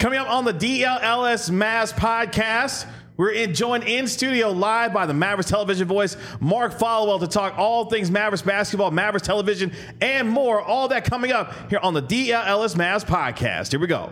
Coming up on the DLLS Mavs podcast, we're joined in studio live by the Mavericks television voice, Mark Followell, to talk all things Mavericks basketball, Mavericks television, and more. All that coming up here on the DLLS Mavs podcast. Here we go.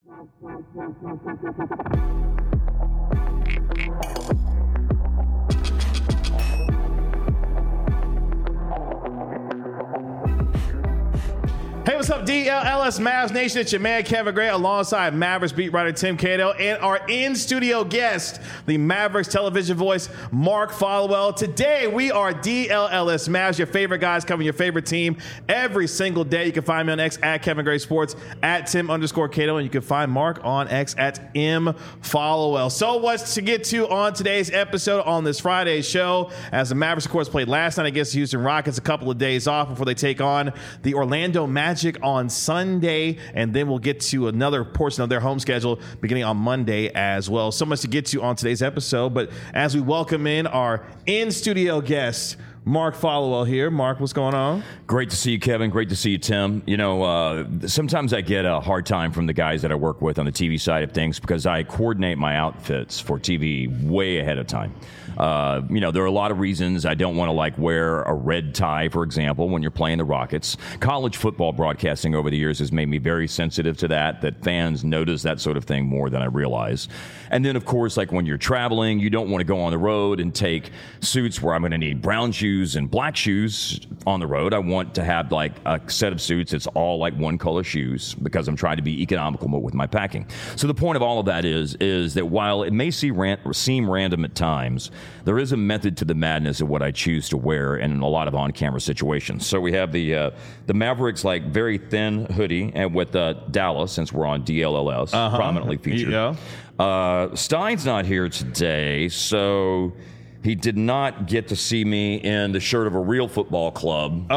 Hey, what's up, DLLS Mavs Nation? It's your man, Kevin Gray, alongside Mavericks beat writer Tim Cato, and our in-studio guest, the Mavericks television voice, Mark Followell. Today, we are DLLS Mavs, your favorite guys covering your favorite team every single day. You can find me on X at Kevin Gray Sports, at Tim_Cato, and you can find Mark on X at M Followell. So what's to get to on today's episode on this Friday show? As the Mavericks, of course, played last night against the Houston Rockets, a couple of days off before they take on the Orlando Magic on Sunday, and then we'll get to another portion of their home schedule beginning on Monday as well. So much to get to on today's episode, but as we welcome in our in-studio guest, Mark Followell here. Mark, what's going on? Great to see you, Kevin. Great to see you, Tim. You know, sometimes I get a hard time from the guys that I work with on the TV side of things because I coordinate my outfits for TV way ahead of time. You know, there are a lot of reasons I don't want to wear a red tie, for example, when you're playing the Rockets. College football broadcasting over the years has made me very sensitive to that fans notice that sort of thing more than I realize. And then, of course, when you're traveling, you don't want to go on the road and take suits where I'm going to need brown shoes and black shoes on the road. I want to have a set of suits that's all one color shoes because I'm trying to be economical with my packing. So the point of all of that is that while it may seem random at times, there is a method to the madness of what I choose to wear in a lot of on-camera situations. So we have the Mavericks very thin hoodie and with Dallas, since we're on DLLS, prominently featured. Yeah. Stein's not here today, so he did not get to see me in the shirt of a real football club.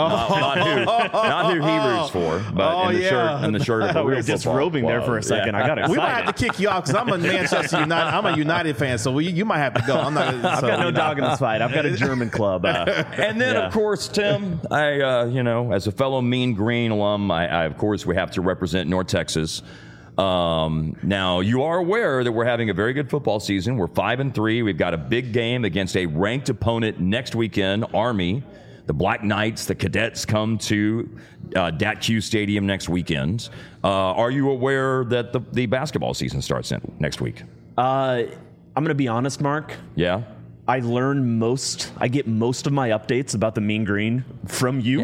Not who he roots for, but in the shirt of a real football club. Disrobing there for a second. I got excited. We might have to kick you off because I'm a Manchester United. I'm a United fan, so you might have to go. I've got no dog in this fight. I've got a German club. And then, of course, Tim, I as a fellow Mean Green alum, I of course we have to represent North Texas. Now, you are aware that we're having a very good football season. We're 5-3. We've got a big game against a ranked opponent next weekend, Army. The Black Knights, the Cadets come to DATQ Stadium next weekend. Are you aware that the basketball season starts next week? I'm going to be honest, Mark. Yeah? I get most of my updates about the Mean Green from you.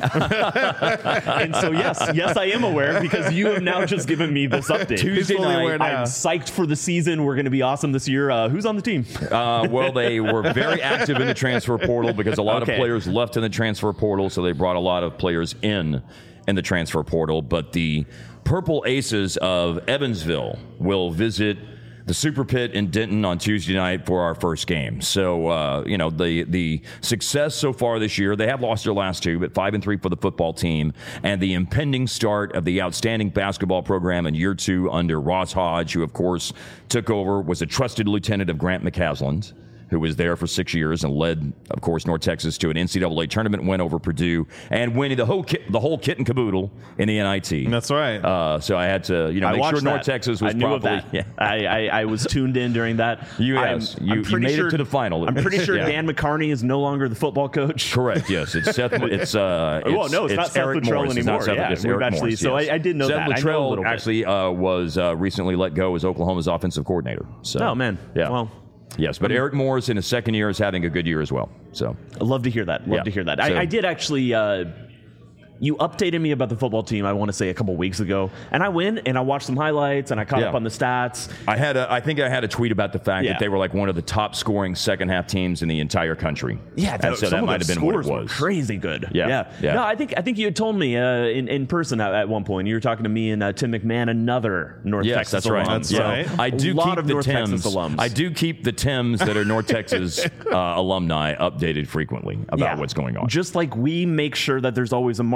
And so, yes, I am aware because you have now just given me this update. Tuesday night. I'm psyched for the season. We're going to be awesome this year. Who's on the team? Well, they were very active in the transfer portal because a lot of players left in the transfer portal, so they brought a lot of players in the transfer portal. But the Purple Aces of Evansville will visit the Super Pit in Denton on Tuesday night for our first game. So, the success so far this year, they have lost their last two, but 5-3 for the football team, and the impending start of the outstanding basketball program in year 2 under Ross Hodge, who, of course, took over, was a trusted lieutenant of Grant McCasland, who was there for 6 years and led, of course, North Texas to an NCAA tournament win over Purdue and winning the whole kit and caboodle in the NIT. That's right. So I had to, make sure North Texas was probably. Yeah. I was tuned in during that. You made it to the final. I'm pretty sure Dan McCarney is no longer the football coach. Correct. Yes, it's Seth. It's not Seth Luttrell anymore. It's Eric Morris. So I did know that. Seth Luttrell actually was recently let go as Oklahoma's offensive coordinator. So, oh man. Yeah. Well. Yes, but Eric Morris in his second year is having a good year as well. So I love to hear that. Love to hear that. I did actually. You updated me about the football team, I want to say, a couple weeks ago. And I went and I watched some highlights and I caught up on the stats. I think I had a tweet about the fact that they were one of the top scoring second half teams in the entire country. Yeah, so that might have been what it was. Crazy good. Yeah. No, I think you had told me in person at one point. You were talking to me and Tim McMahon, another North Texas alum. That's right. I do keep the North Tims. Texas alums. I do keep the Tims that are North Texas alumni updated frequently about what's going on. Just like we make sure that there's always a Mark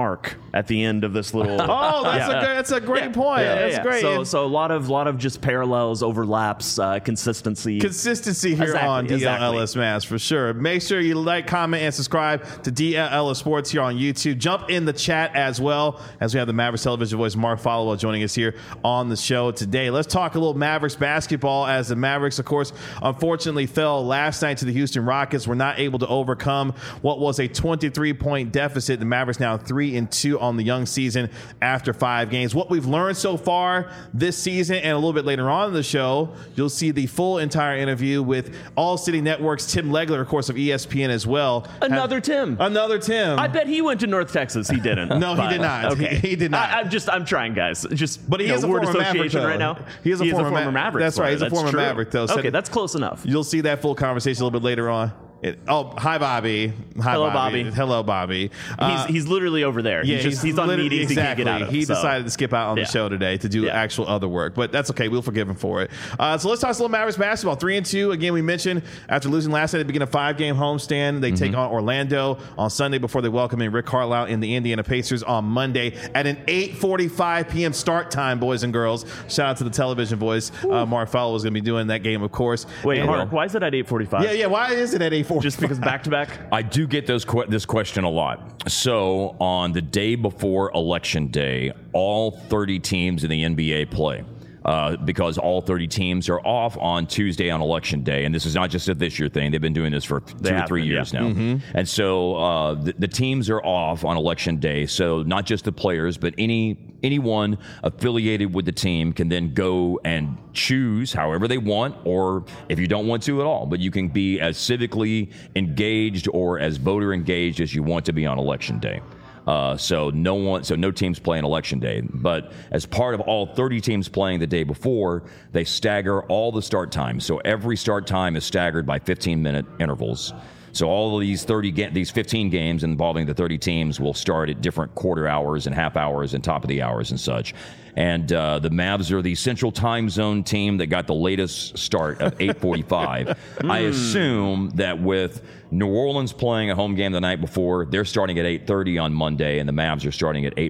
Mark at the end of this little. Oh, that's a great point. That's great. So a lot of just parallels, overlaps, consistency Here on DLLS Mavs for sure. Make sure you like, comment, and subscribe to DLLS Sports here on YouTube. Jump in the chat as well, as we have the Mavericks television voice Mark Followell joining us here on the show today. Let's talk a little Mavericks basketball, as the Mavericks, of course, unfortunately fell last night to the Houston Rockets. Were not able to overcome what was a 23-point deficit. The Mavericks now 3-2 on the young season after 5 games. What we've learned so far this season, and a little bit later on in the show, you'll see the full entire interview with All City Network's Tim Legler, of course, of ESPN as well. Another Tim. I bet he went to North Texas. He didn't. No, he did not. Okay. He did not. I'm trying, guys. But he is a word former Maverick association right now. He is a former Maverick. That's right. He's a former Maverick, though. Okay, that's close enough. You'll see that full conversation a little bit later on. Hi, Bobby. Hello, Bobby. Hello, Bobby. He's literally over there. Yeah, he's on meetings he can't get out of. He decided to skip out on the show today to do actual other work, but that's okay. We'll forgive him for it. So let's talk a little Mavericks basketball. 3-2. Again, we mentioned after losing last night, they begin a 5-game homestand. They take on Orlando on Sunday before they welcome in Rick Carlisle and the Indiana Pacers on Monday at an 8:45 p.m. start time, boys and girls. Shout out to the television voice. Mark Followell is going to be doing that game, of course. Wait, Mark, why is it at 8:45? Yeah. Why is it at 8:45? Just because back to back? I do get this question a lot. So on the day before Election Day, all 30 teams in the NBA play. Because all 30 teams are off on Tuesday on Election Day. And this is not just a this year thing. They've been doing this for 2 or 3 years now. And so the teams are off on Election Day. So not just the players, but anyone affiliated with the team can then go and choose however they want, or if you don't want to at all. But you can be as civically engaged or as voter engaged as you want to be on Election Day. So no teams play on Election Day. But as part of all 30 teams playing the day before, they stagger all the start times. So every start time is staggered by 15-minute intervals. So all of these 15 games involving the 30 teams will start at different quarter hours and half hours and top of the hours and such. And the Mavs are the Central Time Zone team that got the latest start of 8:45. I assume that with New Orleans playing a home game the night before, they're starting at 8:30 on Monday, and the Mavs are starting at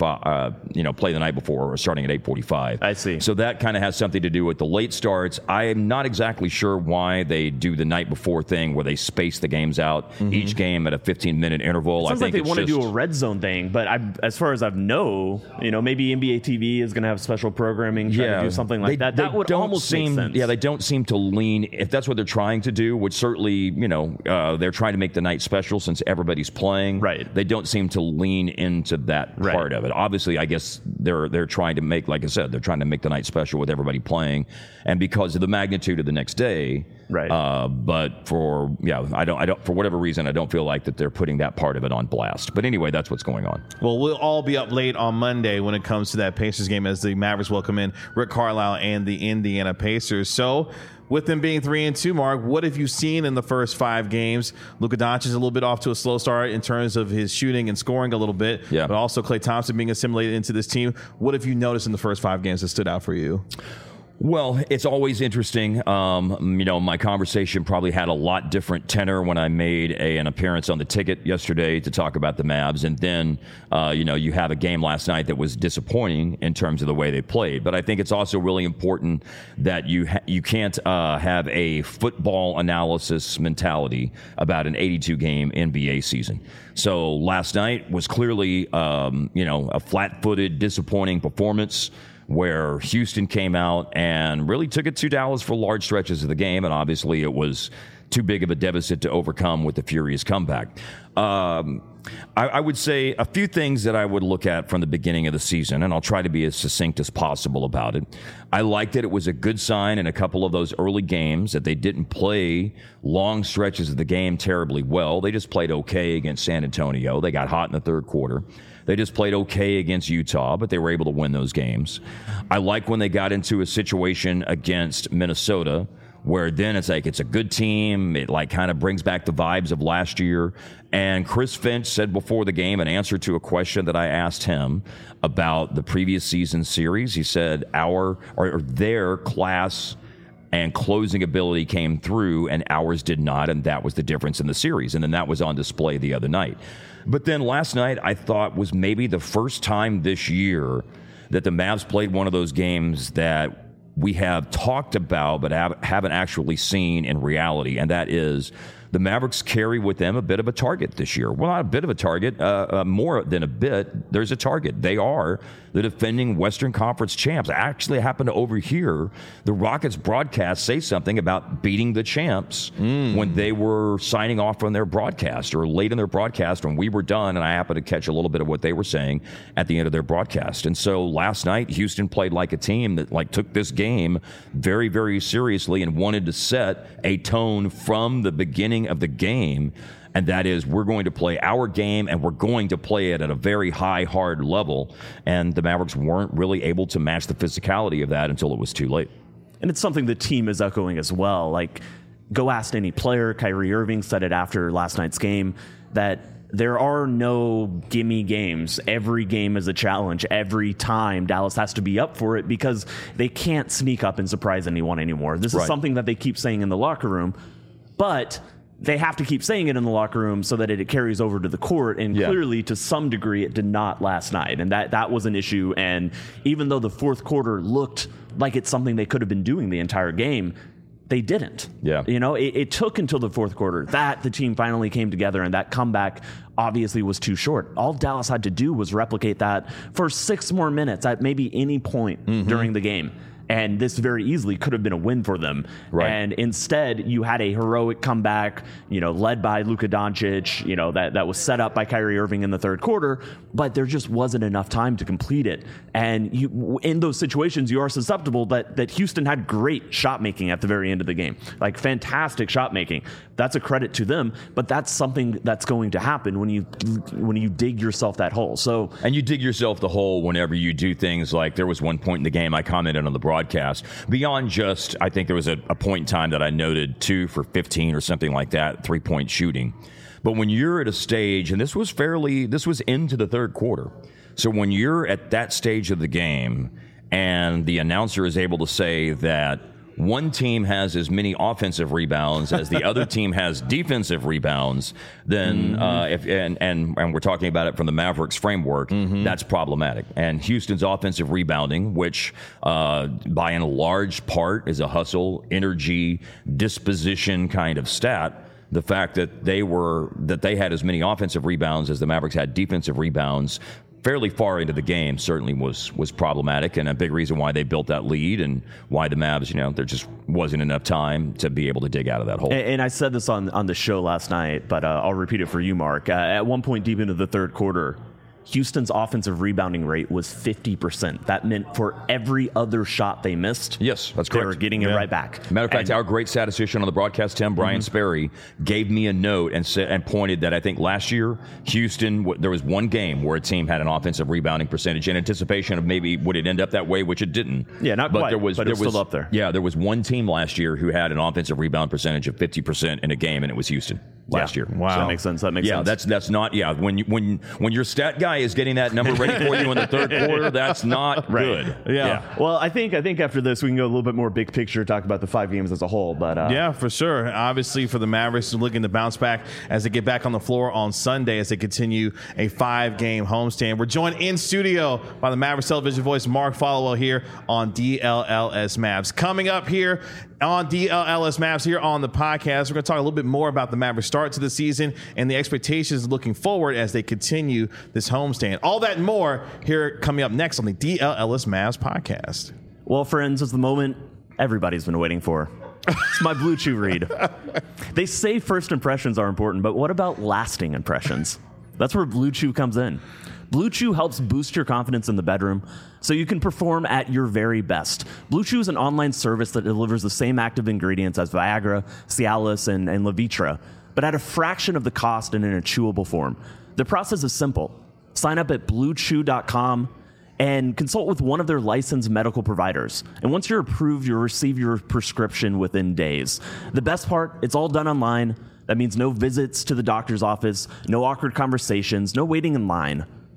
8:45. Play the night before, or starting at 8:45. I see. So that kind of has something to do with the late starts. I am not exactly sure why they do the night before thing where they space the games out, each game at a 15-minute interval. Sounds like they want to do a red zone thing, but as far as I know, maybe NBA TV is going to have special programming, try to do something like that. That would almost make sense. Yeah, they don't seem to lean, if that's what they're trying to do, which certainly, they're trying to make the night special since everybody's playing. Right. They don't seem to lean into that part of it. Obviously, I guess they're trying to make, like I said, they're trying to make the night special with everybody playing, and because of the magnitude of the next day. Right. But for whatever reason, I don't feel like that they're putting that part of it on blast. But anyway, that's what's going on. Well, we'll all be up late on Monday when it comes to that Pacers game as the Mavericks welcome in Rick Carlisle and the Indiana Pacers. So with them being 3-2, Mark, what have you seen in the first 5 games? Luka Doncic is a little bit off to a slow start in terms of his shooting and scoring a little bit, but also Klay Thompson being assimilated into this team. What have you noticed in the first 5 games that stood out for you? Well, it's always interesting. My conversation probably had a lot different tenor when I made an appearance on the ticket yesterday to talk about the Mavs. And then, you have a game last night that was disappointing in terms of the way they played. But I think it's also really important that you can't have a football analysis mentality about an 82-game NBA season. So last night was clearly, a flat-footed, disappointing performance, where Houston came out and really took it to Dallas for large stretches of the game, and obviously it was too big of a deficit to overcome with the furious comeback. I would say a few things that I would look at from the beginning of the season, and I'll try to be as succinct as possible about it. I liked that it was a good sign in a couple of those early games that they didn't play long stretches of the game terribly well. They just played okay against San Antonio. They got hot in the third quarter. They just played okay against Utah, but they were able to win those games. I like when they got into a situation against Minnesota where then it's like it's a good team. It kind of brings back the vibes of last year. And Chris Finch said before the game, in answer to a question that I asked him about the previous season series, he said their class and closing ability came through, and ours did not, and that was the difference in the series. And then that was on display the other night. But then last night, I thought was maybe the first time this year that the Mavs played one of those games that we have talked about but haven't actually seen in reality, and that is the Mavericks carry with them a bit of a target this year. Well, not a bit of a target, more than a bit. There's a target. They are the defending Western Conference champs. I actually happened to overhear the Rockets broadcast say something about beating the champs when they were signing off from their broadcast, or late in their broadcast when we were done, and I happened to catch a little bit of what they were saying at the end of their broadcast. And so last night, Houston played like a team that took this game very, very seriously and wanted to set a tone from the beginning of the game, and that is, we're going to play our game, and we're going to play it at a very high, hard level. And the Mavericks weren't really able to match the physicality of that until it was too late. And it's something the team is echoing as well. Like, go ask any player. Kyrie Irving said it after last night's game, that there are no gimme games. Every game is a challenge. Every time Dallas has to be up for it, because they can't sneak up and surprise anyone anymore. This is something that they keep saying in the locker room, but they have to keep saying it in the locker room so that it carries over to the court. And clearly, to some degree, it did not last night. And that was an issue. And even though the fourth quarter looked like it's something they could have been doing the entire game, they didn't. Yeah. You know, it took until the fourth quarter that the team finally came together, and that comeback obviously was too short. All Dallas had to do was replicate that for 6 more minutes at maybe any point during the game. And this very easily could have been a win for them. Right. And instead, you had a heroic comeback, led by Luka Doncic, that was set up by Kyrie Irving in the third quarter, but there just wasn't enough time to complete it. And in those situations, you are susceptible that Houston had great shot making at the very end of the game, like fantastic shot making. That's a credit to them, but that's something that's going to happen when you dig yourself that hole. And you dig yourself the hole whenever you do things like, there was one point in the game I commented on the broadcast, beyond just, I think there was a point in time that I noted 2 for 15 or something like that, 3-point shooting. But when you're at a stage, and this was into the third quarter, so when you're at that stage of the game and the announcer is able to say that one team has as many offensive rebounds as the other team has defensive rebounds, then and we're talking about it from the Mavericks framework, that's problematic. And Houston's offensive rebounding, which by and large part is a hustle, energy, disposition kind of stat, the fact that they had as many offensive rebounds as the Mavericks had defensive rebounds fairly far into the game certainly was problematic, and a big reason why they built that lead and why the Mavs, there just wasn't enough time to be able to dig out of that hole. And I said this on the show last night, but I'll repeat it for you, Mark. At one point deep into the third quarter, Houston's offensive rebounding rate was 50%. That meant for every other shot they missed, yes, that's correct, they were getting it right back. Matter of fact, our great statistician on the broadcast, Tim, Brian Sperry, gave me a note and pointed that I think last year, Houston, there was one game where a team had an offensive rebounding percentage in anticipation of maybe would it end up that way, which it didn't. Yeah, not quite, but it's still up there. Yeah, there was one team last year who had an offensive rebound percentage of 50% in a game, and it was Houston last year. Wow. So that makes sense. Yeah, that's not, when your stat guy is getting that number ready for you in the third quarter, that's not good. Yeah. Well, I think after this we can go a little bit more big picture, talk about the 5 games as a whole. But yeah, for sure. Obviously, for the Mavericks, looking to bounce back as they get back on the floor on Sunday as they continue a 5-game homestand. We're joined in studio by the Mavericks television voice Mark Followill here on DLLS Mavs. Coming up here on DLLS Mavs here on the podcast, we're going to talk a little bit more about the Mavericks start to the season and the expectations looking forward as they continue this homestand. All that and more here coming up next on the DLLS Mavs podcast. Well, friends, it's the moment everybody's been waiting for. It's my Blue Chew read. They say first impressions are important, but what about lasting impressions? That's where Blue Chew comes in. Blue Chew helps boost your confidence in the bedroom so you can perform at your very best. Blue Chew is an online service that delivers the same active ingredients as Viagra, Cialis, and Levitra, but at a fraction of the cost and in a chewable form. The process is simple. Sign up at BlueChew.com and consult with one of their licensed medical providers. And once you're approved, you'll receive your prescription within days. The best part, it's all done online. That means no visits to the doctor's office, no awkward conversations, no waiting in line.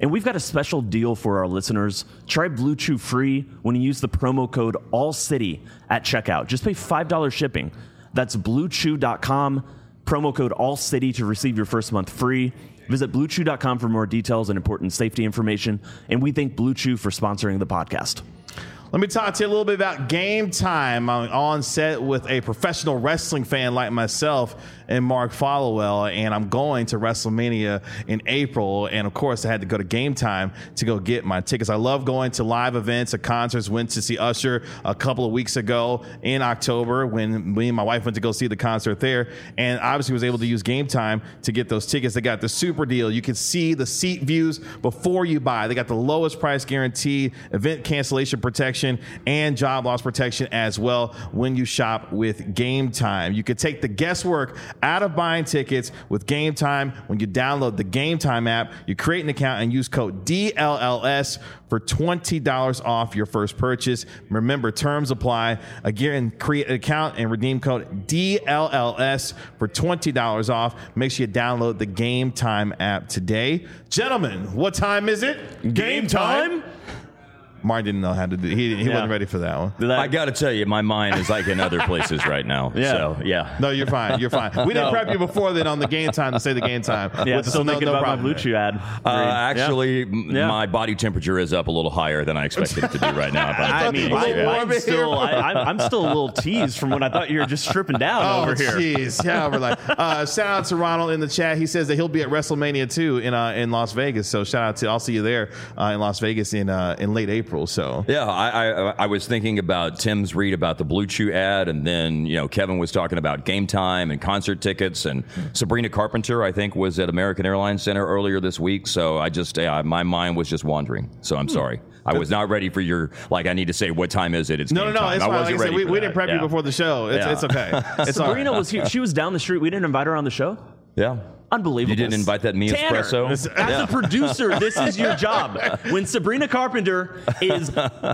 And we've got a special deal for our listeners. Try Blue Chew free when you use the promo code ALLCITY at checkout. Just pay $5 shipping. That's BlueChew.com, promo code ALLCITY to receive your first month free. Visit BlueChew.com for more details and important safety information. And we thank Blue Chew for sponsoring the podcast. Let me talk to you a little bit about Game Time. I'm on set with a professional wrestling fan like myself and Mark Followell, and I'm going to WrestleMania in April. And of course, I had to go to Game Time to go get my tickets. I love going to live events or concerts. Went to see Usher a couple of weeks ago in October when me and my wife went to go see the concert there, and obviously was able to use Game Time to get those tickets. They got the super deal. You can see the seat views before you buy. They got the lowest price guarantee, event cancellation protection, and job loss protection as well when you shop with Game Time. You can take the guesswork out of buying tickets with Game Time. When you download the Game Time app, you create an account and use code DLLS for $20 off your first purchase. Remember, terms apply. Again, create an account and redeem code DLLS for $20 off. Make sure you download the Game Time app today. Gentlemen, what time is it? Game time? Martin didn't know how to do it. He wasn't ready for that one. I got to tell you, my mind is like in other places right now. Yeah. So, yeah. No, you're fine. You're fine. We didn't prep you before then on the Game Time to say the Game Time. Yeah, still thinking about my Blue Chew ad. Actually, my body temperature is up a little higher than I expected it to be right now. I mean, I'm still a little teased from when I thought you were just stripping down over here. Jeez. Yeah, we're like, shout out to Ronald in the chat. He says that he'll be at WrestleMania 2 in Las Vegas. So shout out to, I'll see you there in Las Vegas in late April. So yeah, I was thinking about Tim's read about the Blue Chew ad, and then Kevin was talking about Game Time and concert tickets, and Sabrina Carpenter I think was at American Airlines Center earlier this week. So I just my mind was just wandering. So I'm sorry. I was not ready for your, I need to say, what time is it? It's no, Game Time. It's I fine. wasn't Like I said, ready we didn't prep you before the show. It's okay. It's Sabrina all right. was here. She was down the street. We didn't invite her on the show. Yeah. Unbelievable. You didn't invite that Mia Tanner, Espresso? as a producer, this is your job. When Sabrina Carpenter is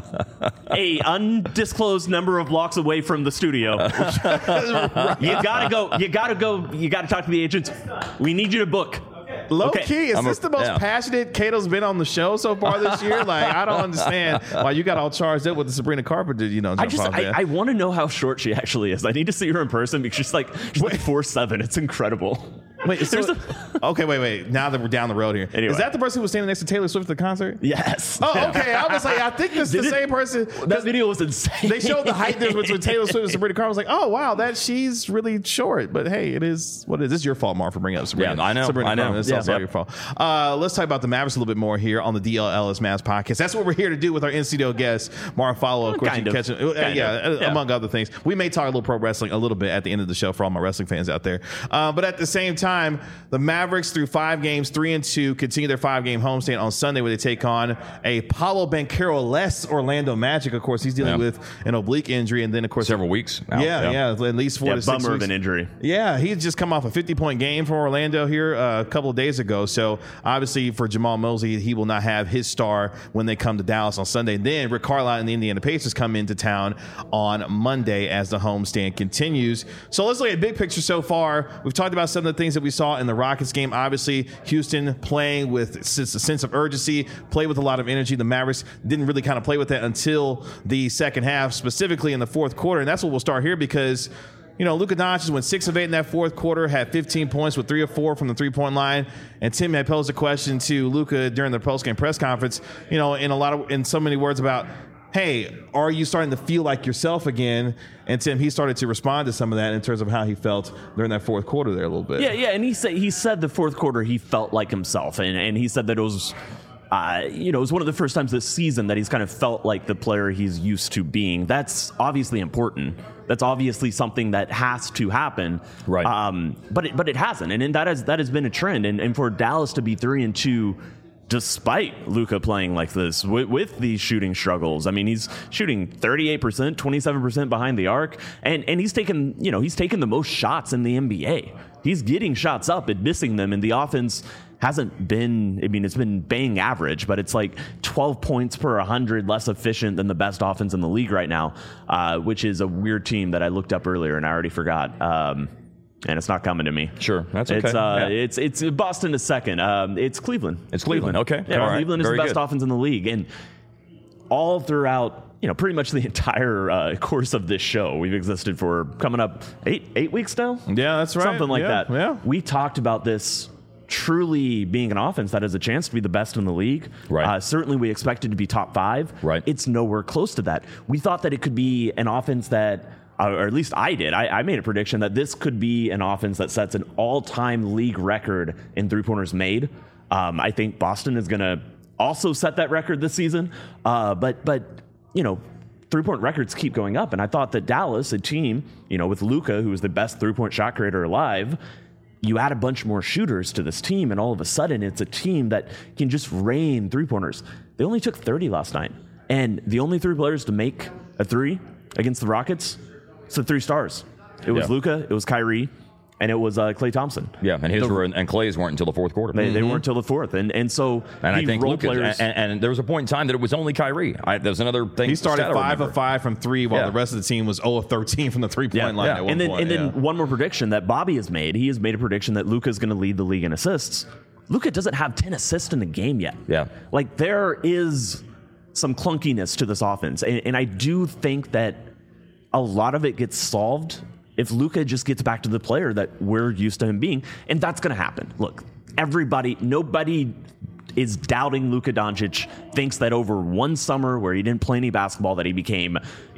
a undisclosed number of blocks away from the studio, you gotta go. You gotta talk to the agents. We need you to book. Low key, is this the most passionate Cato's been on the show so far this year? I don't understand why you got all charged up with the Sabrina Carpenter, I want to know how short she actually is. I need to see her in person because she's like 4'7". It's incredible. Wait, wait. Now that we're down the road here, anyway. Is that the person who was standing next to Taylor Swift at the concert? Yes. Oh, okay. I was like, I think this is the same person. That video was insane. They showed the height difference between Taylor Swift and Sabrina Carpenter. I was like, oh wow, she's really short. But hey, it is what it is. This is your fault, Mark, for bringing up Sabrina. Yeah, I know. Sabrina Carpenter. It's also your fault. Let's talk about the Mavericks a little bit more here on the DLLS Mavs podcast. That's what we're here to do with our in-studio guest, Mark Followell. Of course, you can catch him. Among other things. We may talk a little pro wrestling a little bit at the end of the show for all my wrestling fans out there. But at the same time, the Mavericks through 5 games, 3-2, continue their 5-game homestand on Sunday where they take on a Paolo Banchero-less Orlando Magic. Of course, he's dealing with an oblique injury, and then of course several weeks. At least 4 to 6 weeks. Bummer of an injury. Yeah, he's just come off a 50-point game for Orlando here a couple of days ago. So obviously for Jamal Mosley, he will not have his star when they come to Dallas on Sunday. Then Rick Carlisle and the Indiana Pacers come into town on Monday as the homestand continues. So let's look at big picture so far. We've talked about some of the things that we saw in the Rockets game. Obviously, Houston playing with a sense of urgency, play with a lot of energy. The Mavericks didn't really kind of play with that until the second half, specifically in the fourth quarter. And that's what we'll start here because Luka Doncic went 6 of 8 in that fourth quarter, had 15 points with 3 of 4 from the three-point line. And Tim had posed a question to Luka during the postgame press conference, in so many words about, hey, are you starting to feel like yourself again? And Tim, he started to respond to some of that in terms of how he felt during that fourth quarter there a little bit. Yeah, and he said the fourth quarter he felt like himself, and he said that it was. It was one of the first times this season that he's kind of felt like the player he's used to being. That's obviously important. That's obviously something that has to happen. Right. But it hasn't, and that has been a trend. And for Dallas to be 3-2, despite Luka playing like this with these shooting struggles, I mean, he's shooting 38%, 27% behind the arc, and he's taken the most shots in the NBA. He's getting shots up and missing them, and the offense hasn't been, it's been bang average, but it's like 12 points per 100 less efficient than the best offense in the league right now, which is a weird team that I looked up earlier and I already forgot. And it's not coming to me. Sure, that's okay. It's Boston is second. It's Cleveland. It's Cleveland. Okay. Yeah, All right. Cleveland is Very the best good. offense in the league, and all throughout, pretty much the entire course of this show, we've existed for coming up 8 weeks now. Yeah, that's right. Something like that. Yeah. We talked about this truly being an offense that has a chance to be the best in the league. Right. Certainly we expected to be top 5. Right. It's nowhere close to that. We thought that it could be an offense that, or at least I did. I made a prediction that this could be an offense that sets an all-time league record in three-pointers made. I think Boston is going to also set that record this season. But three-point records keep going up. And I thought that Dallas, a team, with Luka, who is the best three-point shot creator alive, you add a bunch more shooters to this team, and all of a sudden it's a team that can just rain three-pointers. They only took 30 last night. And the only 3 players to make a 3 against the Rockets, it's the 3 stars. It was Luka, it was Kyrie, and it was Klay Thompson. Yeah, and Clay's weren't until the fourth quarter. They weren't until the fourth. And so I think role Luka, players... and there was a point in time that it was only Kyrie. There was another thing. He started stat I 5 remember. of 5 from 3, while the rest of the team was 0 of 13 from the 3-point line at one point. And then one more prediction that Bobby has made. He has made a prediction that Luka is going to lead the league in assists. Luka doesn't have 10 assists in the game yet. Yeah. Like, there is some clunkiness to this offense. And I do think that a lot of it gets solved if Luka just gets back to the player that we're used to him being. And that's going to happen. Look, nobody is doubting Luka Doncic, thinks that over one summer where he didn't play any basketball that he became,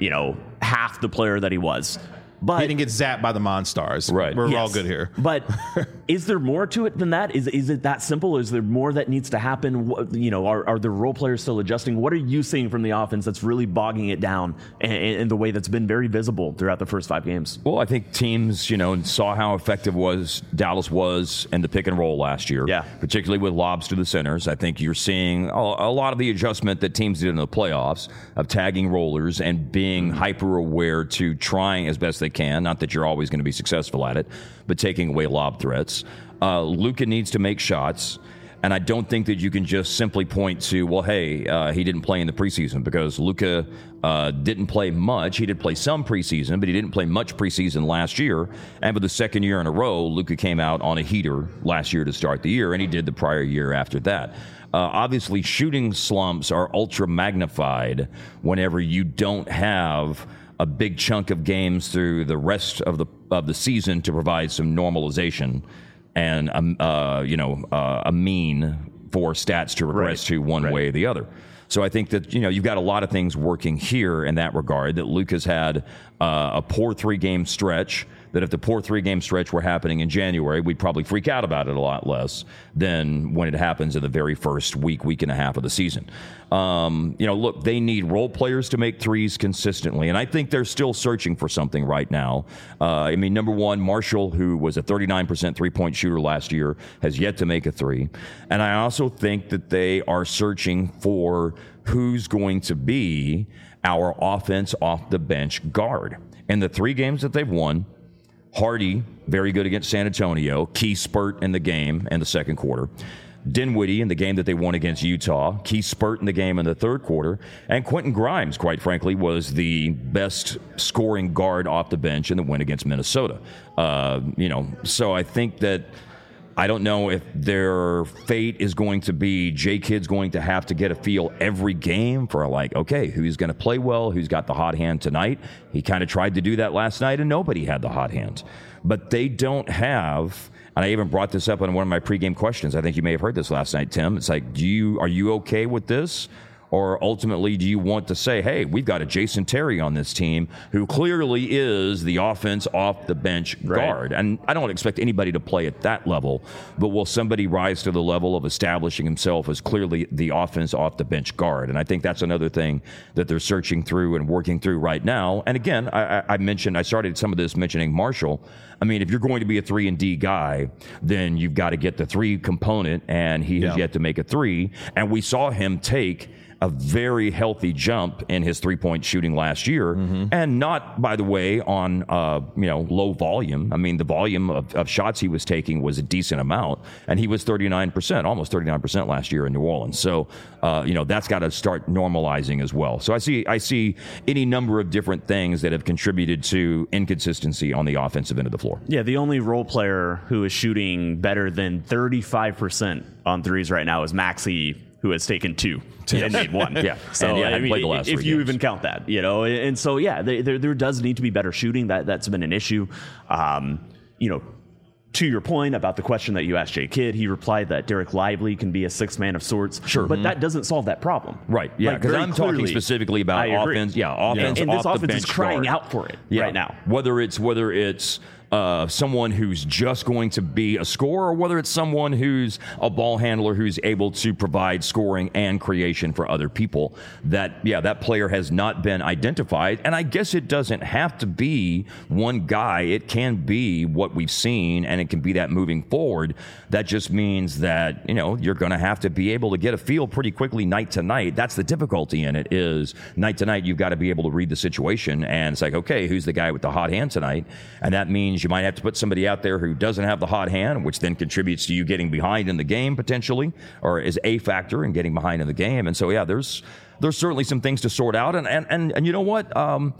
half the player that he was. But he didn't get zapped by the Monstars. Right. We're all good here. But is there more to it than that? Is it that simple? Is there more that needs to happen? Are the role players still adjusting? What are you seeing from the offense that's really bogging it down in the way that's been very visible throughout the first 5 games? Well, I think teams, saw how effective Dallas was in the pick and roll last year. Yeah. Particularly with lobs to the centers. I think you're seeing a lot of the adjustment that teams did in the playoffs of tagging rollers and being hyper aware to trying as best they can. Not that you're always going to be successful at it, but taking away lob threats. Luka needs to make shots. And I don't think that you can just simply point to, well, hey, he didn't play in the preseason, because Luka didn't play much. He did play some preseason, but he didn't play much preseason last year. And for the second year in a row, Luka came out on a heater last year to start the year, and he did the prior year after that. Obviously, shooting slumps are ultra magnified whenever you don't have a big chunk of games through the rest of the season to provide some normalization and a mean for stats to regress to one way or the other. So I think that you've got a lot of things working here in that regard. That Luka's had a poor 3-game stretch. That if the poor 3-game stretch were happening in January, we'd probably freak out about it a lot less than when it happens in the very first week and a half of the season. Look, they need role players to make threes consistently, and I think they're still searching for something right now. Number one, Marshall, who was a 39% 3-point shooter last year, has yet to make a 3. And I also think that they are searching for who's going to be our offense off the bench guard. In the 3 games that they've won, Hardy, very good against San Antonio, key spurt in the game in the second quarter. Dinwiddie in the game that they won against Utah, key spurt in the game in the third quarter. And Quentin Grimes, quite frankly, was the best scoring guard off the bench in the win against Minnesota. So I think that I don't know if their fate is going to be J-Kid's going to have to get a feel every game for okay, who's going to play well, who's got the hot hand tonight. He kind of tried to do that last night, and nobody had the hot hand. But they don't have, and I even brought this up in one of my pregame questions. I think you may have heard this last night, Tim. It's like, are you okay with this? Or ultimately, do you want to say, hey, we've got a Jason Terry on this team who clearly is the offense off the bench guard? And I don't expect anybody to play at that level, but will somebody rise to the level of establishing himself as clearly the offense off the bench guard? And I think that's another thing that they're searching through and working through right now. And again, I started some of this mentioning Marshall. If you're going to be a 3-and-D guy, then you've got to get the 3 component, and he has yet to make a 3. And we saw him take a very healthy jump in his three-point shooting last year, and not, by the way, on low volume. I mean, the volume of shots he was taking was a decent amount, and he was 39%, almost 39% last year in New Orleans. So, that's got to start normalizing as well. So I see any number of different things that have contributed to inconsistency on the offensive end of the floor. Yeah, the only role player who is shooting better than 35% on threes right now is Maxey, who has taken 2 and made 1. Yeah. So I mean, played the last if 3 you games. even count that, and so there does need to be better shooting. That's been an issue. To your point about the question that you asked Jay Kidd, he replied that Derek Lively can be a sixth man of sorts. Sure. But that doesn't solve that problem. Right. Yeah. Because I'm talking specifically about offense. Yeah. Offense. And this off offense the is bench crying guard. out for it Yeah. right now. Whether it's someone who's just going to be a scorer, or whether it's someone who's a ball handler who's able to provide scoring and creation for other people, that player has not been identified. And I guess it doesn't have to be one guy. It can be what we've seen, and it can be that moving forward. That just means that, you're going to have to be able to get a feel pretty quickly night to night. That's the difficulty in it, is night to night you've got to be able to read the situation, and it's like, okay, who's the guy with the hot hand tonight? And that means you might have to put somebody out there who doesn't have the hot hand, which then contributes to you getting behind in the game potentially, or is a factor in getting behind in the game. And so, there's certainly some things to sort out. And you know what?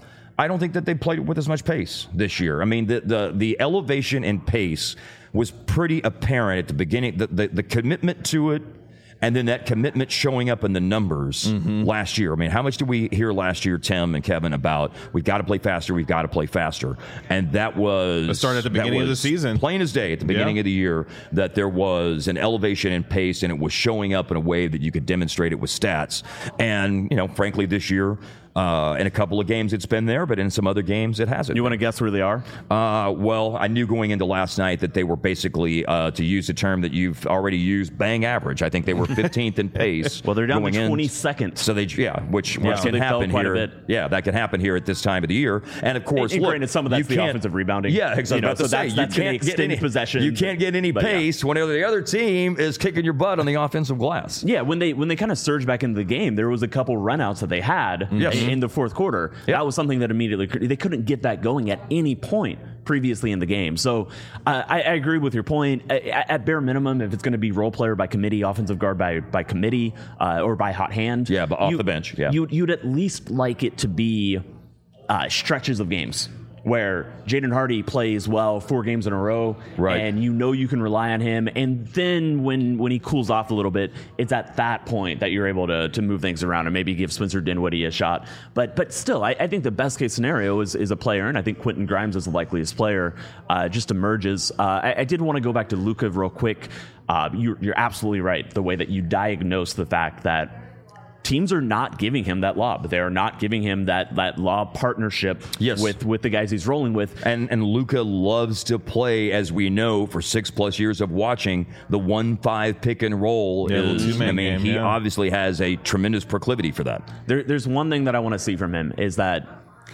I don't think that they played with as much pace this year. I mean, the elevation in pace was pretty apparent at the beginning. The commitment to it, and then that commitment showing up in the numbers last year. I mean, how much did we hear last year, Tim and Kevin, about we've got to play faster, we've got to play faster? And that was... It started at the beginning of the season. Plain as day at the beginning of the year, that there was an elevation in pace, and it was showing up in a way that you could demonstrate it with stats. And, frankly, this year... in a couple of games it's been there, but in some other games it hasn't. You want to guess where they are? Well, I knew going into last night that they were basically, to use a term that you've already used, bang average. I think they were 15th in pace. Well, they're down to going in. 22nd. So which so can they fell happen quite a here. bit. Yeah, that can happen here at this time of the year. And of course, And granted, some of that's the offensive rebounding. Yeah, exactly. So that's going to extend possession. You can't get any pace whenever the other team is kicking your butt on the offensive glass. Yeah, when they kind of surged back into the game, there was a couple runouts that they had in the fourth quarter. That was something that immediately they couldn't get that going at any point previously in the game. So I agree with your point. At bare minimum, if it's going to be role player by committee, offensive guard by committee, or by hot hand, but off the bench, you'd at least like it to be stretches of games where Jaden Hardy plays well 4 games in a row, and you can rely on him. And then when he cools off a little bit, it's at that point that you're able to move things around and maybe give Spencer Dinwiddie a shot. But still, I think the best case scenario is a player, and I think Quentin Grimes is the likeliest player, just emerges. I did want to go back to Luka real quick. You're absolutely right, the way that you diagnose the fact that teams are not giving him that lob. They are not giving him that lob partnership with the guys he's rolling with. And Luka loves to play, as we know, for 6+ years of watching, the 1-5 pick and roll. He obviously has a tremendous proclivity for that. There's one thing that I want to see from him is that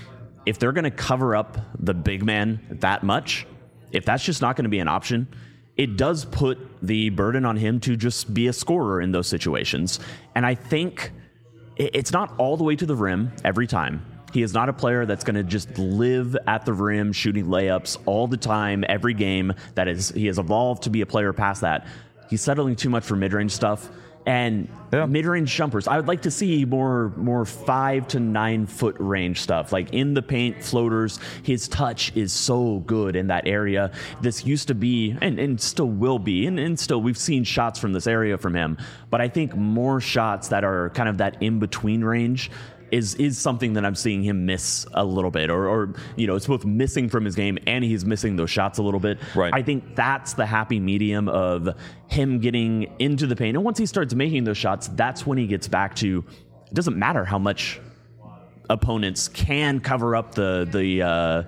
if they're going to cover up the big man that much, if that's just not going to be an option, it does put the burden on him to just be a scorer in those situations. And I think it's not all the way to the rim every time. He is not a player that's going to just live at the rim shooting layups all the time, every game. He has evolved to be a player past that. He's settling too much for mid-range stuff. And mid-range jumpers, I would like to see more 5 to 9 foot range stuff, like in the paint, floaters. His touch is so good in that area. This used to be, and still will be, and still we've seen shots from this area from him. But I think more shots that are kind of that in-between range is something that I'm seeing him miss a little bit, or it's both missing from his game and he's missing those shots a little bit. Right. I think that's the happy medium of him getting into the paint. And once he starts making those shots, that's when he gets back to, it doesn't matter how much opponents can cover up the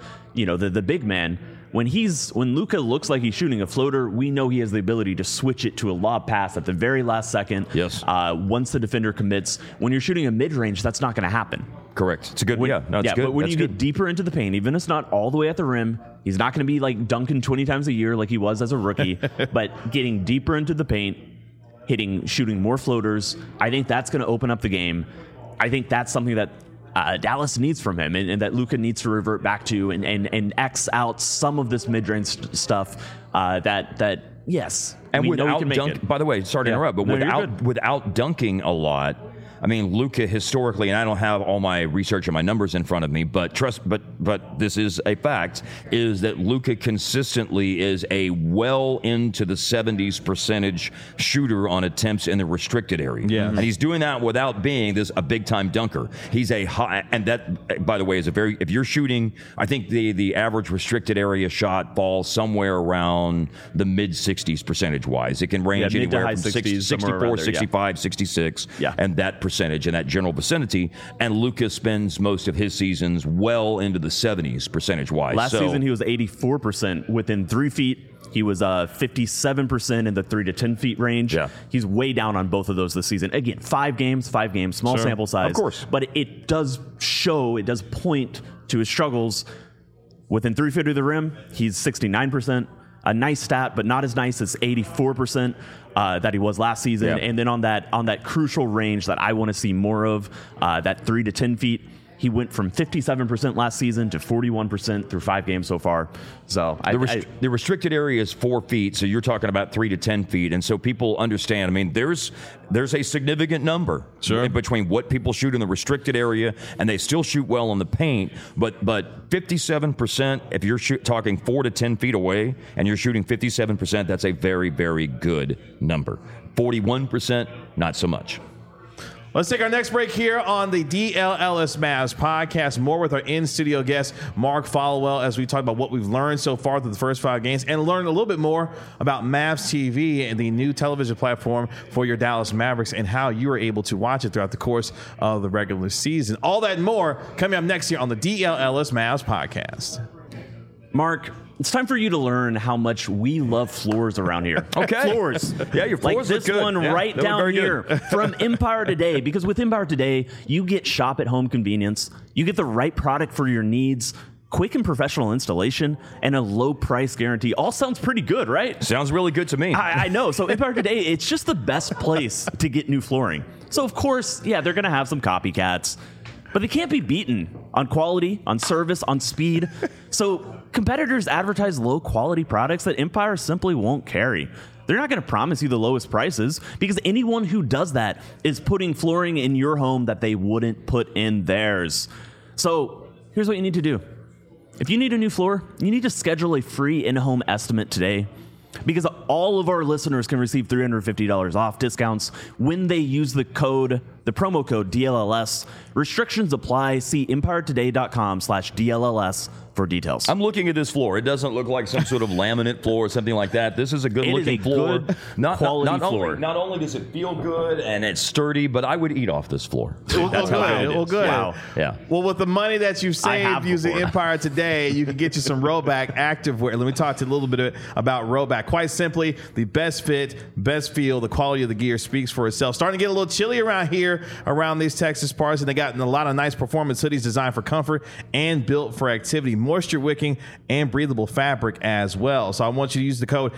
big man. When Luka looks like he's shooting a floater, we know he has the ability to switch it to a lob pass at the very last second. Yes. Once the defender commits. When you're shooting a mid-range, that's not going to happen. Correct. It's a good. It's good. But when That's you good. get deeper into the paint, even if it's not all the way at the rim, he's not going to be like dunking 20 times a year like he was as a rookie. But getting deeper into the paint, shooting more floaters. I think that's going to open up the game. I think that's something that Dallas needs from him, and that Luka needs to revert back to, and X out some of this mid-range stuff. That yes, and we know he without can make it. By the way, sorry to interrupt, but No, you're without dunking a lot. I mean, Luka historically, and I don't have all my research and my numbers in front of me, but this is a fact, is that Luka consistently is a well into the 70s percentage shooter on attempts in the restricted area. Yeah. And he's doing that without being a big time dunker. He's a high, and that, by the way, is if you're shooting, I think the average restricted area shot falls somewhere around the mid 60s percentage wise. It can range mid to anywhere high from 60s, 64, 65, 66, Yeah. and that percentage in that general vicinity. And Luka spends most of his seasons well into the 70s percentage wise. Last season, he was 84% within 3 feet. He was 57% in the 3 to 10 feet range. Yeah. He's way down on both of those this season. Again, 5 games, small sample size. Of course. But it does point to his struggles. Within 3 feet of the rim, he's 69%. A nice stat, but not as nice as 84% that he was last season. Yeah. And then on that crucial range that I want to see more of, that 3 to 10 feet, he went from 57% last season to 41% through 5 games so far. So the restricted area is 4 feet, so you're talking about 3 to 10 feet, and so people understand. I mean, there's a significant number between what people shoot in the restricted area, and they still shoot well on the paint. But 57%, if you're talking 4 to 10 feet away, and you're shooting 57%, that's a very, very good number. 41%, not so much. Let's take our next break here on the DLLS Mavs podcast. More with our in-studio guest, Mark Followell, as we talk about what we've learned so far through the first 5 games and learn a little bit more about Mavs TV and the new television platform for your Dallas Mavericks and how you are able to watch it throughout the course of the regular season. All that and more coming up next here on the DLLS Mavs podcast. Mark, it's time for you to learn how much we love floors around here. Okay. Floors. Yeah, your floors like this look good. one Yeah, right they look down very here good. from Empire Today. Because with Empire Today, you get shop at home convenience. You get the right product for your needs, quick and professional installation, and a low price guarantee. All sounds pretty good, right? Sounds really good to me. I know. So Empire Today, it's just the best place to get new flooring. So of course, yeah, they're going to have some copycats, but they can't be beaten on quality, on service, on speed. So competitors advertise low quality products that Empire simply won't carry. They're not going to promise you the lowest prices because anyone who does that is putting flooring in your home that they wouldn't put in theirs. So here's what you need to do. If you need a new floor, you need to schedule a free in-home estimate today, because all of our listeners can receive $350 off discounts when they use the promo code DLLS. Restrictions apply. See EmpireToday.com/DLLS for details. I'm looking at this floor. It doesn't look like some sort of laminate floor or something like that. This is a good looking a floor. good quality floor. Not only does it feel good and it's sturdy, but I would eat off this floor. That's how good. it Well, is. good. Wow. Yeah. Well, with the money that you saved have using before. Empire Today, you can get you some Roback activewear. Let me talk to you a little bit about Roback. Quite simply, the best fit, best feel, the quality of the gear speaks for itself. Starting to get a little chilly around here, around these Texas parts, and they got a lot of nice performance hoodies designed for comfort and built for activity, moisture wicking, and breathable fabric as well. So I want you to use the code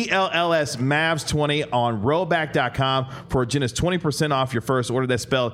DLLSMavs20 on Roback.com for a generous 20% off your first order. That's spelled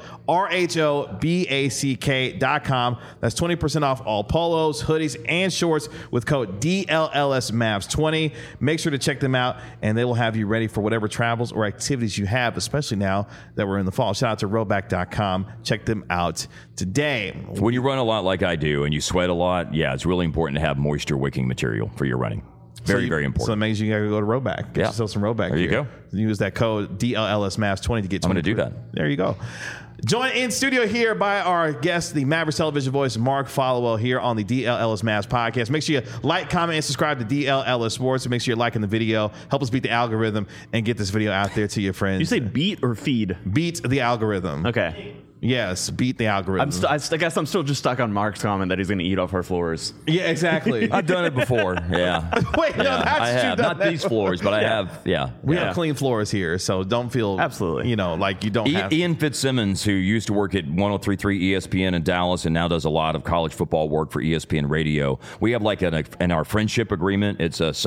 RHOBACK.com. That's 20% off all polos, hoodies, and shorts with code DLLSMavs20. Make sure to check them out, and they will have you ready for whatever travels or activities you have, especially now that we're in the fall. Shout out to Roback.com. Check them out today. When you run a lot like I do and you sweat a lot, yeah, it's really important to have moisture wicking material for your running. Very, very important. So it means you got to go to Roback. Get yourself some Roback. There you gear. go. Use that code DLLSMavs20 to get 20%. I'm going to do that. There you go. Joined in studio here by our guest, the Mavericks television voice, Mark Followell, here on the DLLS Mavs podcast. Make sure you like, comment, and subscribe to DLLS Sports. And make sure you're liking the video. Help us beat the algorithm and get this video out there to your friends. You say beat or feed? Beat the algorithm. Okay. Yes, beat the algorithm. I guess I'm still just stuck on Mark's comment that he's going to eat off our floors. Yeah, exactly. I've done it before. Yeah. Wait, no, that's I true. have. Not these floors, but I have, yeah. We have clean floors here, so don't feel Absolutely. like you don't have. Ian Fitzsimmons, who used to work at 103.3 ESPN in Dallas and now does a lot of college football work for ESPN Radio. We have like in our friendship agreement,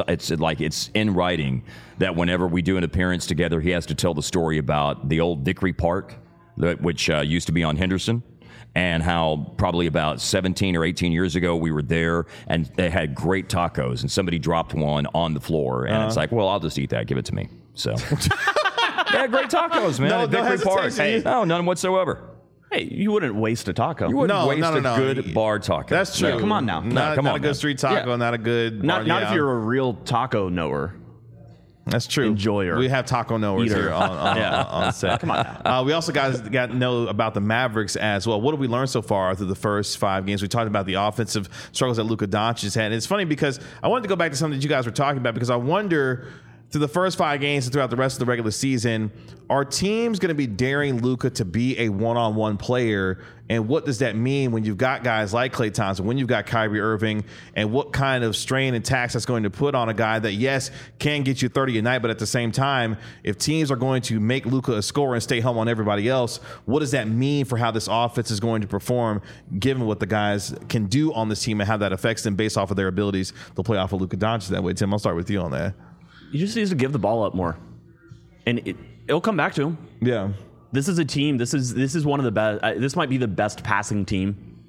it's in writing that whenever we do an appearance together, he has to tell the story about the old Vickery Park, which used to be on Henderson. And how probably about 17 or 18 years ago we were there and they had great tacos and somebody dropped one on the floor and it's like, well, I'll just eat that. Give it to me. So they had great tacos, man. No, at no Vickery Park. hesitation. No, none whatsoever. Hey, you wouldn't waste a taco. You wouldn't No, waste no. a good bar taco. That's true. No. Come on now. Not come a on, good man. street taco, Yeah. not a good. Not if you're a real taco knower. That's true. enjoyer. We have taco knowers Eater. here on set. Come on now. We also got to know about the Mavericks as well. What have we learned so far through the first 5 games? We talked about the offensive struggles that Luka Doncic has had. And it's funny because I wanted to go back to something that you guys were talking about because I wonder through the first 5 games and throughout the rest of the regular season, are teams going to be daring Luka to be a one-on-one player? And what does that mean when you've got guys like Klay Thompson, when you've got Kyrie Irving, and what kind of strain and tax that's going to put on a guy that, yes, can get you 30 a night, but at the same time, if teams are going to make Luka a scorer and stay home on everybody else, what does that mean for how this offense is going to perform, given what the guys can do on this team and how that affects them based off of their abilities to play off of Luka Doncic that way? Tim, I'll start with you on that. He just needs to give the ball up more, and it'll come back to him. Yeah. This is a team. This is one of the best. This might be the best passing team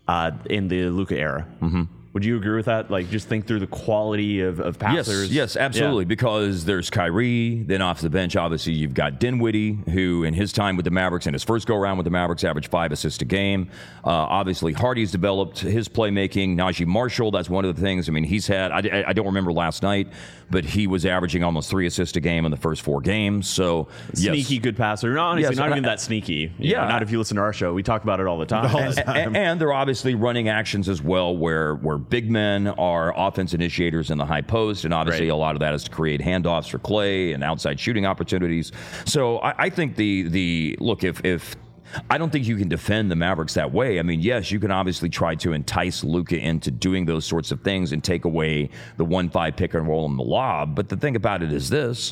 in the Luka era. Mm-hmm. Would you agree with that? Like, just think through the quality of passers. Yes, absolutely. Yeah. Because there's Kyrie, then off the bench, obviously, you've got Dinwiddie, who in his time with the Mavericks, in his first go-around with the Mavericks, averaged 5 assists a game. Obviously, Hardy's developed his playmaking. Najee Marshall, that's one of the things. I mean, he's had, I don't remember last night, but he was averaging almost 3 assists a game in the first 4 games. So, Sneaky good passer. No, honestly, Yes, not even that sneaky. You know, not if you listen to our show. We talk about it all the time. And they're obviously running actions as well where big men are offense initiators in the high post, and obviously a lot of that is to create handoffs for Klay and outside shooting opportunities. So I think the look, if I don't think you can defend the Mavericks that way. I mean, yes, you can obviously try to entice Luka into doing those sorts of things and take away the 1-5 pick and roll in the lob. But the thing about it is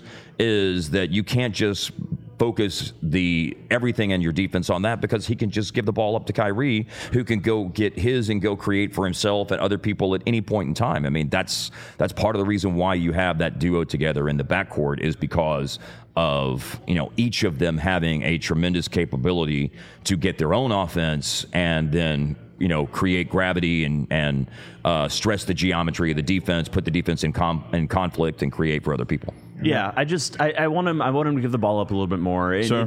that you can't just focus everything in your defense on that, because he can just give the ball up to Kyrie, who can go get his and go create for himself and other people at any point in time. I mean, that's part of the reason why you have that duo together in the backcourt, is because of, each of them having a tremendous capability to get their own offense and then create gravity and stress the geometry of the defense, put the defense in conflict, and create for other people. Yeah, I want him to give the ball up a little bit more. Sure.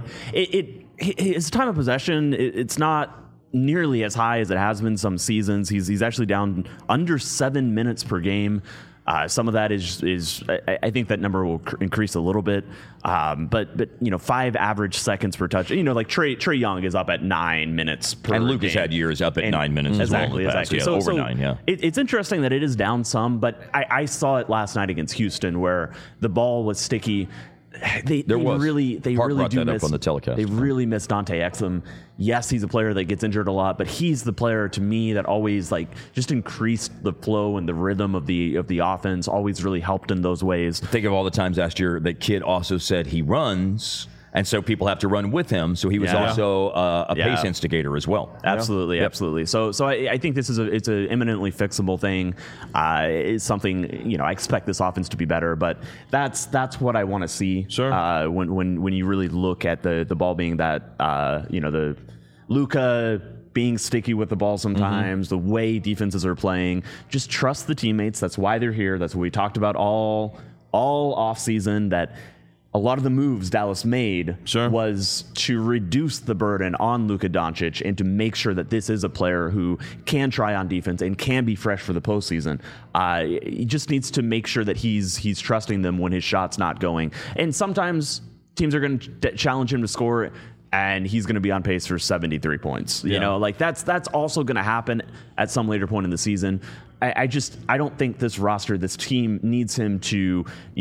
His time of possession, it's not nearly as high as it has been some seasons. He's actually down under 7 minutes per game. Some of that is I think that number will increase a little bit, but 5 average seconds per touch. Like Trae Young is up at 9 minutes per game. And Luka's had years up at 9 minutes as well in the past. Exactly. Yeah, over 9, yeah. It's interesting that it is down some, but I saw it last night against Houston where the ball was sticky. They really brought do that miss up on the telecast. They really miss Dante Exum. Yes, he's a player that gets injured a lot, but he's the player to me that always just increased the flow and the rhythm of the offense. Always really helped in those ways. Think of all the times last year that Kid also said he runs, and so people have to run with him. So he was also a pace instigator as well. Absolutely, absolutely. So I think this is it's an eminently fixable thing. It's something I expect this offense to be better, but that's what I want to see. Sure. When you really look at the ball being that the Luka being sticky with the ball sometimes, the way defenses are playing, just trust the teammates. That's why they're here. That's what we talked about all off season, that a lot of the moves Dallas made was to reduce the burden on Luka Doncic and to make sure that this is a player who can try on defense and can be fresh for the postseason. He just needs to make sure that he's trusting them when his shot's not going. And sometimes teams are going to challenge him to score, and he's going to be on pace for 73 points. That's also going to happen at some later point in the season. I don't think this roster, this team needs him to,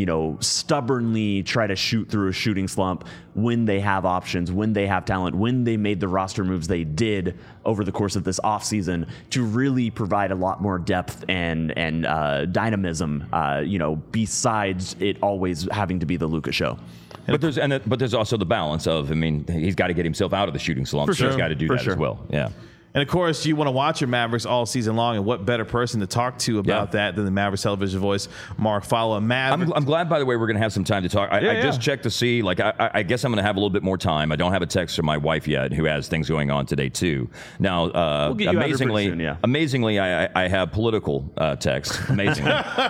stubbornly try to shoot through a shooting slump when they have options, when they have talent, when they made the roster moves they did over the course of this offseason to really provide a lot more depth and dynamism, besides it always having to be the Luka show. But there's also the balance of, he's got to get himself out of the shooting slump. So he's got to do that as well. Yeah. And of course, you want to watch your Mavericks all season long, and what better person to talk to about that than the Mavericks television voice, Mark Followill. I'm glad, by the way, we're going to have some time to talk. I just checked to see, I guess I'm going to have a little bit more time. I don't have a text from my wife yet, who has things going on today too. Now, we'll get you amazingly, I have political text. Amazingly,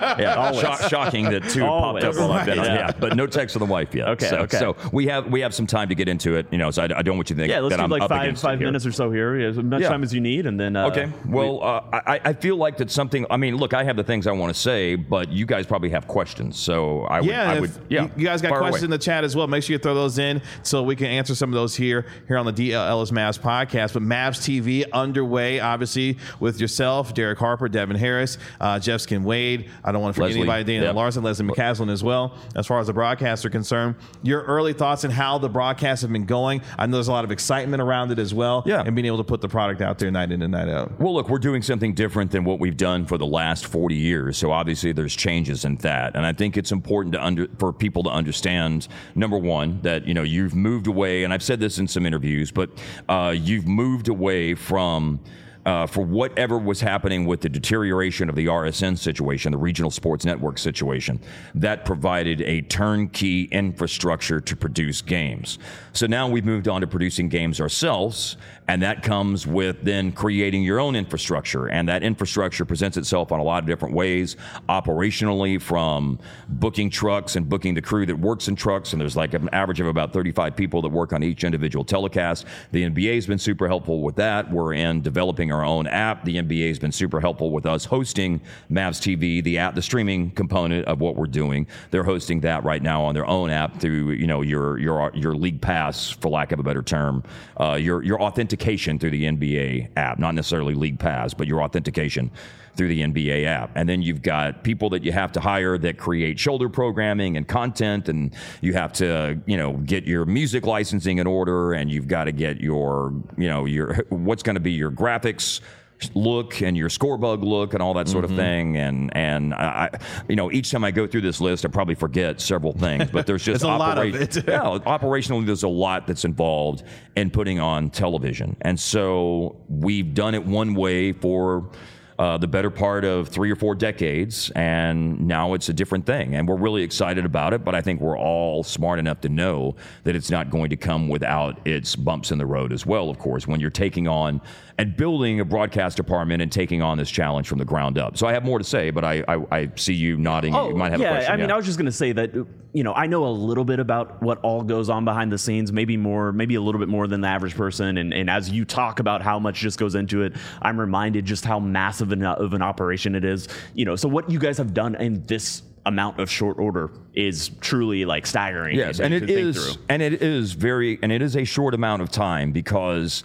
shocking that two popped up while I've been on. Yeah, but no text from the wife yet. Okay. So we have some time to get into it. So I don't want you to think let's that do I'm five minutes or so here. As much time as you need, and then okay. Well, I feel like that's something. Look, I have the things I want to say, but you guys probably have questions. So I would. You guys got questions in the chat as well. Make sure you throw those in so we can answer some of those here on the DL Ellis Mavs podcast. But Mavs TV underway, obviously, with yourself, Derek Harper, Devin Harris, Jeff Skin Wade. I don't want to forget anybody. Dana Larson, Leslie McCaslin as well. As far as the broadcasts are concerned, your early thoughts on how the broadcasts have been going. I know there's a lot of excitement around it as well. Yeah. And being able to put the product out there night in and night out. Well, look, we're doing something different than what we've done for the last 40 years. So obviously there's changes in that. And I think it's important for people to understand, number one, that, you've moved away, and I've said this in some interviews, but you've moved away from for whatever was happening with the deterioration of the RSN situation, the regional sports network situation, that provided a turnkey infrastructure to produce games. So now we've moved on to producing games ourselves, and that comes with then creating your own infrastructure. And that infrastructure presents itself on a lot of different ways, operationally, from booking trucks and booking the crew that works in trucks. And there's like an average of about 35 people that work on each individual telecast. The NBA has been super helpful with that. We're in developing our own app. The NBA has been super helpful with us hosting Mavs TV, the app, the streaming component of what we're doing. They're hosting that right now on their own app through, your league pass, for lack of a better term, your authentication through the NBA app, not necessarily league pass, but your authentication through the NBA app. And then you've got people that you have to hire that create shoulder programming and content, and you have to, get your music licensing in order, and you've got to get your what's going to be your graphics look and your scorebug look and all that sort of thing. And I, each time I go through this list, I probably forget several things, but there's just a lot of it. Operationally, there's a lot that's involved in putting on television. And so we've done it one way for the better part of 3 or 4 decades, and now it's a different thing. And we're really excited about it, but I think we're all smart enough to know that it's not going to come without its bumps in the road as well, of course, when you're taking on and building a broadcast department and taking on this challenge from the ground up. So I have more to say, but I see you nodding. You might have a question. I was just going to say that, I know a little bit about what all goes on behind the scenes, maybe a little bit more than the average person. And as you talk about how much just goes into it, I'm reminded just how massive of an operation it is. So what you guys have done in this amount of short order is truly like staggering. Yes, and it is a short amount of time because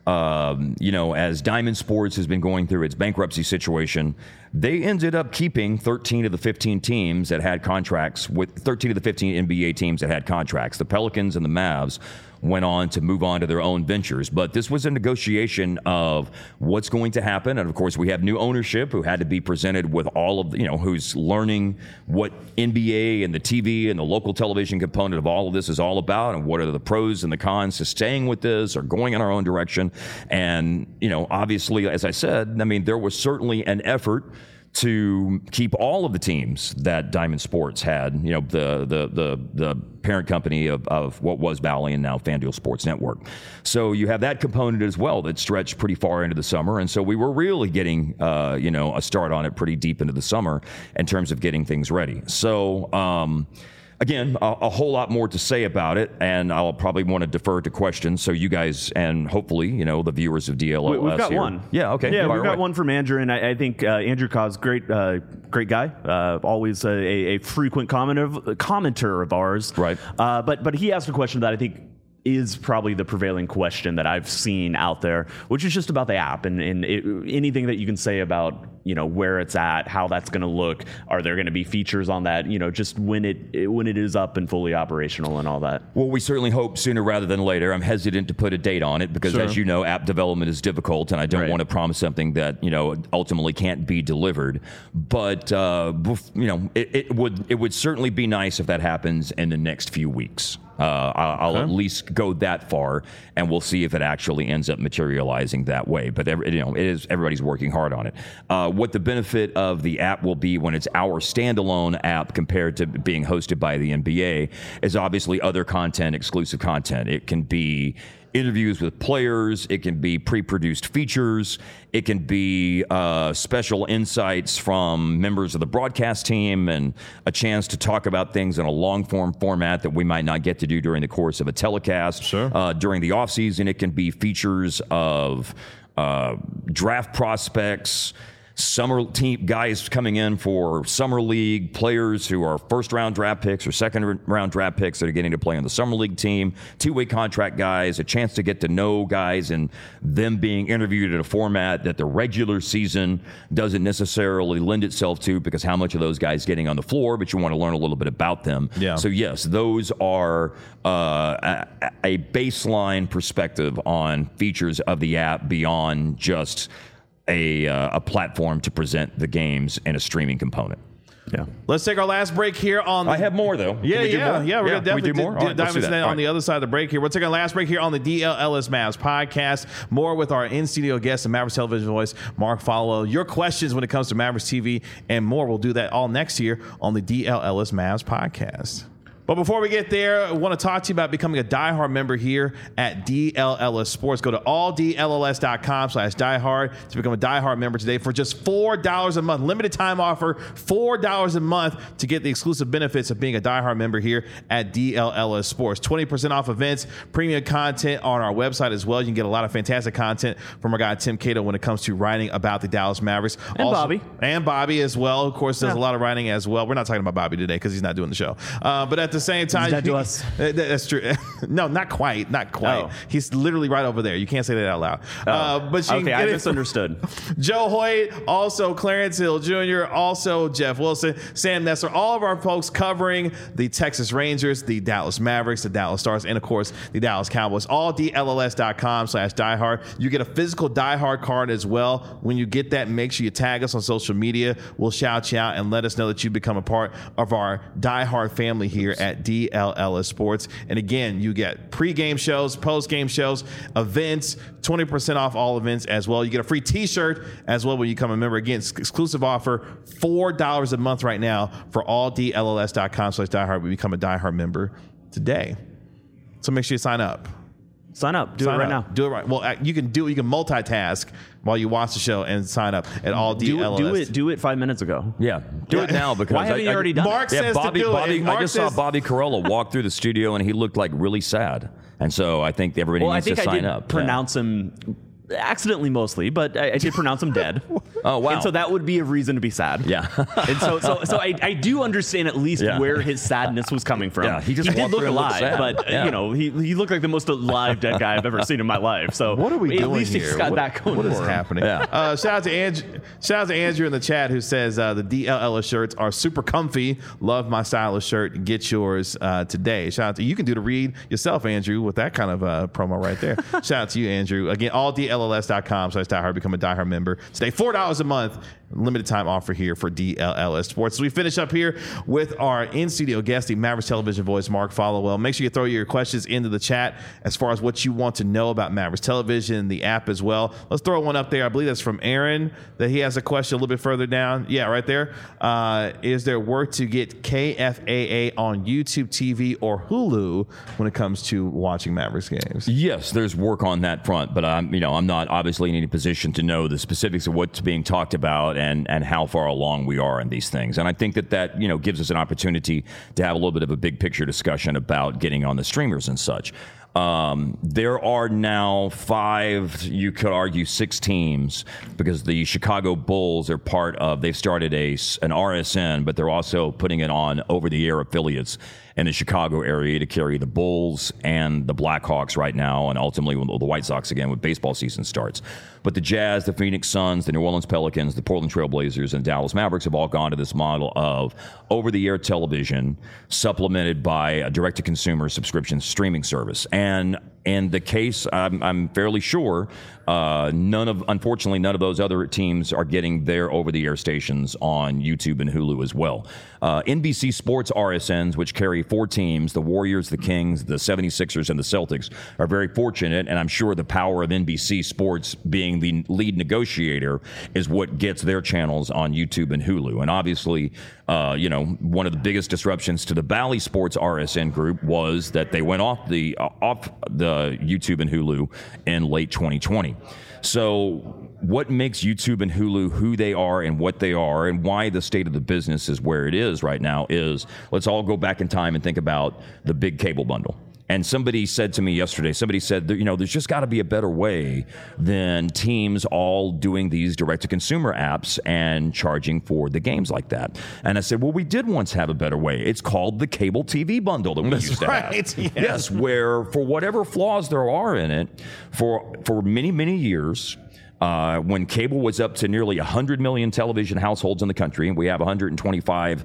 as Diamond Sports has been going through its bankruptcy situation, they ended up keeping 13 of the 15 teams that had contracts with 13 of the 15 NBA teams that had contracts. The Pelicans and the Mavs went on to move on to their own ventures. But this was a negotiation of what's going to happen. And of course, we have new ownership who had to be presented with all of, who's learning what NBA and the TV and the local television component of all of this is all about, and what are the pros and the cons to staying with this or going in our own direction. And, obviously, as I said, there was certainly an effort to keep all of the teams that Diamond Sports had, the parent company of what was Bally and now FanDuel Sports Network. So you have that component as well that stretched pretty far into the summer. And so we were really getting, a start on it pretty deep into the summer in terms of getting things ready. So, again, a whole lot more to say about it, and I'll probably want to defer to questions. So you guys, and hopefully, the viewers of DLOS We've got here. one. Yeah, okay. Yeah, we've got one from Andrew, and I think Andrew Cos, great guy, always a frequent commenter of ours. Right. But he asked a question that I think is probably the prevailing question that I've seen out there, which is just about the app and anything that you can say about, where it's at, how that's going to look. Are there going to be features on that, just when it is up and fully operational and all that? Well, we certainly hope sooner rather than later. I'm hesitant to put a date on it because, Sure. as you know, app development is difficult, and I don't Right. want to promise something that ultimately can't be delivered. But it would certainly be nice if that happens in the next few weeks. I'll at least go that far, and we'll see if it actually ends up materializing that way. But everybody's working hard on it. What the benefit of the app will be when it's our standalone app compared to being hosted by the NBA is obviously other content, exclusive content. It can be interviews with players, it can be pre-produced features, it can be special insights from members of the broadcast team, and a chance to talk about things in a long-form format that we might not get to do during the course of a telecast. Sure. During the offseason, it can be features of draft prospects, summer team guys coming in for summer league, players who are first-round draft picks or second-round draft picks that are getting to play on the summer league team, two-way contract guys, a chance to get to know guys and them being interviewed in a format that the regular season doesn't necessarily lend itself to, because how much of those guys getting on the floor, but you want to learn a little bit about them. Yeah. So yes, those are a baseline perspective on features of the app beyond just a platform to present the games and a streaming component. Yeah. Let's take our last break here on the I have more, though. Yeah, Can we do yeah, more? yeah. We're going to Can we definitely do more? All right, dive let's do into that. that All on the right. other side of the break here. We'll take our last break here on the DLLS Mavs podcast. More with our in-studio guest, the Mavericks television voice, Mark Followill. Your questions when it comes to Mavericks TV and more. We'll do that all next year on the DLLS Mavs podcast. But before we get there, I want to talk to you about becoming a diehard member here at DLLS Sports. Go to alldlls.com/diehard to become a diehard member today for just $4 a month. Limited time offer, $4 a month to get the exclusive benefits of being a diehard member here at DLLS Sports. 20% off events, premium content on our website as well. You can get a lot of fantastic content from our guy Tim Cato when it comes to writing about the Dallas Mavericks. And Bobby. And Bobby as well. Of course, does a lot of writing as well. We're not talking about Bobby today because he's not doing the show. But at the same time, dead to us. That's true. No, not quite. Oh. He's literally right over there. You can't say that out loud. But you can Okay, get I it misunderstood. Joe Hoyt, also Clarence Hill Jr., also Jeff Wilson, Sam Nesser, all of our folks covering the Texas Rangers, the Dallas Mavericks, the Dallas Stars, and of course the Dallas Cowboys. All DLLS.com/diehard. You get a physical diehard card as well. When you get that, make sure you tag us on social media. We'll shout you out and let us know that you become a part of our diehard family here at DLLS Sports. And again, you get pre-game shows, post-game shows, events, 20% off all events as well. You get a free t-shirt as well when you become a member. Again, exclusive offer, $4 a month right now for all DLLS.com/diehard. We become a diehard member today. So make sure you sign up. Sign up. Do it right now. Do it right. Well, you can multitask while you watch the show and sign up at all DLLS. Do it 5 minutes ago. Yeah, do it now because Why haven't you already done Mark it? says Bobby, to do Bobby, it. Mark I just says, saw Bobby Carolla walk through the studio and he looked like really sad. And so I think everybody Well, I needs think to I sign did up. pronounce him accidentally mostly, but I did pronounce him dead. Oh, wow. And so that would be a reason to be sad. Yeah. And so I do understand at least Yeah. where his sadness was coming from. Yeah, he just did walked look through and looked alive, sad. but Yeah. he looked like the most alive dead guy I've ever seen in my life. So what are we doing at least here? he's got that going What is for him. happening? Yeah. Shout out to Andrew in the chat who says the DLLS shirts are super comfy. Love my stylish shirt. Get yours today. Shout out to you. Can do the read yourself, Andrew, with that kind of promo right there. Shout out to you, Andrew. Again, all DLLS.com/diehard. Become a diehard member today. $4 a month. Limited time offer here for DLLS Sports. So we finish up here with our in-studio guest, the Mavericks television voice, Mark Followill. Make sure you throw your questions into the chat as far as what you want to know about Mavericks television, the app as well. Let's throw one up there. I believe that's from Aaron, that he has a question a little bit further down. Yeah, right there. Is there work to get KFAA on YouTube TV or Hulu when it comes to watching Mavericks games? Yes, there's work on that front, but I'm not obviously in any position to know the specifics of what's being talked about and how far along we are in these things. And I think that gives us an opportunity to have a little bit of a big picture discussion about getting on the streamers and such. There are now 5, you could argue 6 teams, because the Chicago Bulls are part of, they've started an RSN, but they're also putting it on over-the-air affiliates in the Chicago area to carry the Bulls and the Blackhawks right now, and ultimately the White Sox again when baseball season starts. But the Jazz, the Phoenix Suns, the New Orleans Pelicans, the Portland Trail Blazers, and Dallas Mavericks have all gone to this model of over-the-air television supplemented by a direct-to-consumer subscription streaming service. And in the case, I'm fairly sure, unfortunately, none of those other teams are getting their over-the-air stations on YouTube and Hulu as well. NBC Sports RSNs, which carry 4 teams, the Warriors, the Kings, the 76ers, and the Celtics, are very fortunate, and I'm sure the power of NBC Sports being the lead negotiator is what gets their channels on YouTube and Hulu. And obviously, one of the biggest disruptions to the Bally Sports RSN group was that they went off the YouTube and Hulu in late 2020. So what makes YouTube and Hulu who they are and what they are and why the state of the business is where it is right now is, let's all go back in time and think about the big cable bundle. And somebody said to me yesterday, there's just got to be a better way than teams all doing these direct-to-consumer apps and charging for the games like that. And I said, well, we did once have a better way. It's called the cable TV bundle that we used to have. Yes, where for whatever flaws there are in it, for many, many years, when cable was up to nearly 100 million television households in the country, and we have 125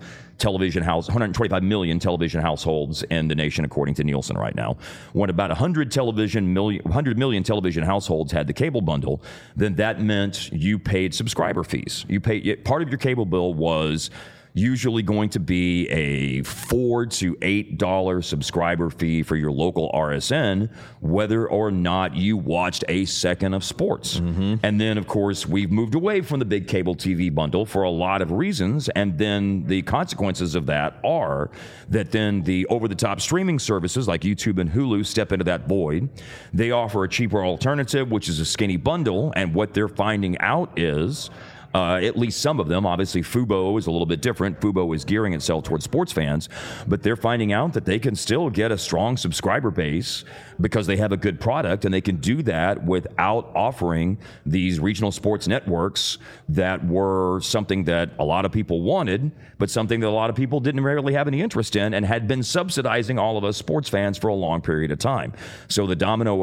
million television households in the nation, according to Nielsen right now. When about 100 million television households had the cable bundle, then that meant you paid subscriber fees. Part of your cable bill was usually going to be a $4 to $8 subscriber fee for your local RSN, whether or not you watched a second of sports. Mm-hmm. And then, of course, we've moved away from the big cable TV bundle for a lot of reasons. And then the consequences of that are that then the over-the-top streaming services like YouTube and Hulu step into that void. They offer a cheaper alternative, which is a skinny bundle. And what they're finding out is, at least some of them, obviously Fubo is a little bit different. Fubo is gearing itself towards sports fans, but they're finding out that they can still get a strong subscriber base because they have a good product, and they can do that without offering these regional sports networks that were something that a lot of people wanted, but something that a lot of people didn't really have any interest in and had been subsidizing all of us sports fans for a long period of time. So the domino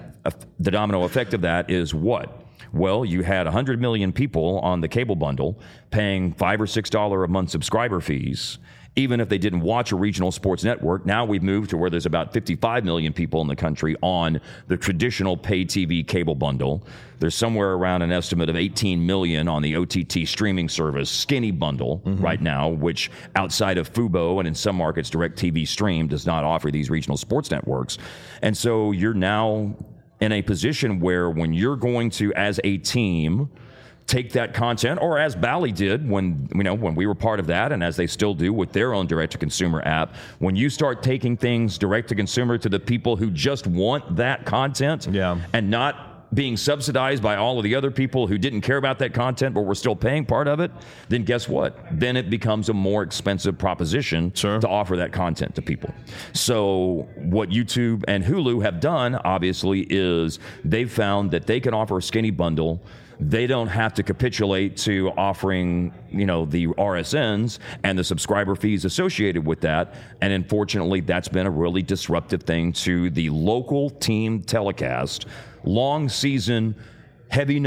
effect of that is what? Well, you had 100 million people on the cable bundle paying $5 or $6 a month subscriber fees, even if they didn't watch a regional sports network. Now we've moved to where there's about 55 million people in the country on the traditional pay TV cable bundle. There's somewhere around an estimate of 18 million on the OTT streaming service skinny bundle right now, which outside of Fubo and in some markets DirecTV Stream does not offer these regional sports networks. And so you're now in a position where when you're going to, as a team, take that content, or as Bally did when we were part of that, and as they still do with their own direct-to-consumer app, when you start taking things direct-to-consumer to the people who just want that content and not being subsidized by all of the other people who didn't care about that content but were still paying part of it, then guess what? Then it becomes a more expensive proposition to offer that content to people. So what YouTube and Hulu have done, obviously, is they've found that they can offer a skinny bundle. They don't have to capitulate to offering, the RSNs and the subscriber fees associated with that. And unfortunately, that's been a really disruptive thing to the local team telecast, long season, heavy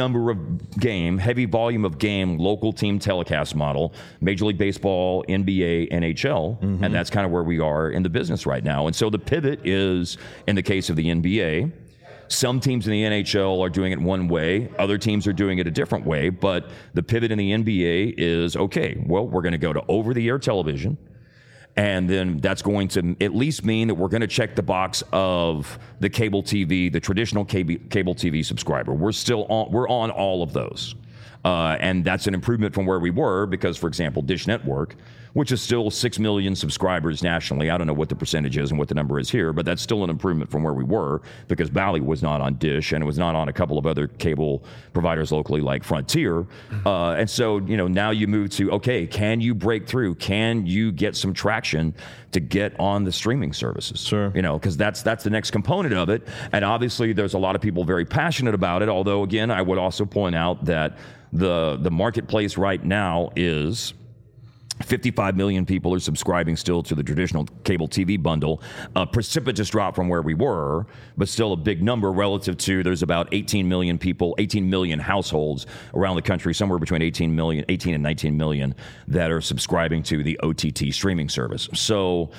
volume of game, local team telecast model, Major League Baseball, NBA, NHL, and that's kind of where we are in the business right now. And so the pivot is, in the case of the NBA, some teams in the NHL are doing it one way, other teams are doing it a different way, but the pivot in the NBA is, okay, well, we're going to go to over-the-air television, and then that's going to at least mean that we're going to check the box of the cable TV, the traditional cable TV subscriber. We're on all of those. And that's an improvement from where we were because, for example, Dish Network, which is still 6 million subscribers nationally. I don't know what the percentage is and what the number is here, but that's still an improvement from where we were because Bally was not on Dish and it was not on a couple of other cable providers locally like Frontier. And so, now you move to, okay, can you break through? Can you get some traction to get on the streaming services? Sure. Because that's the next component of it. And obviously there's a lot of people very passionate about it. Although, again, I would also point out that the marketplace right now is 55 million people are subscribing still to the traditional cable TV bundle. A precipitous drop from where we were, but still a big number relative to there's about 18 million people, 18 million households around the country, somewhere between 18 and 19 million that are subscribing to the OTT streaming service. So,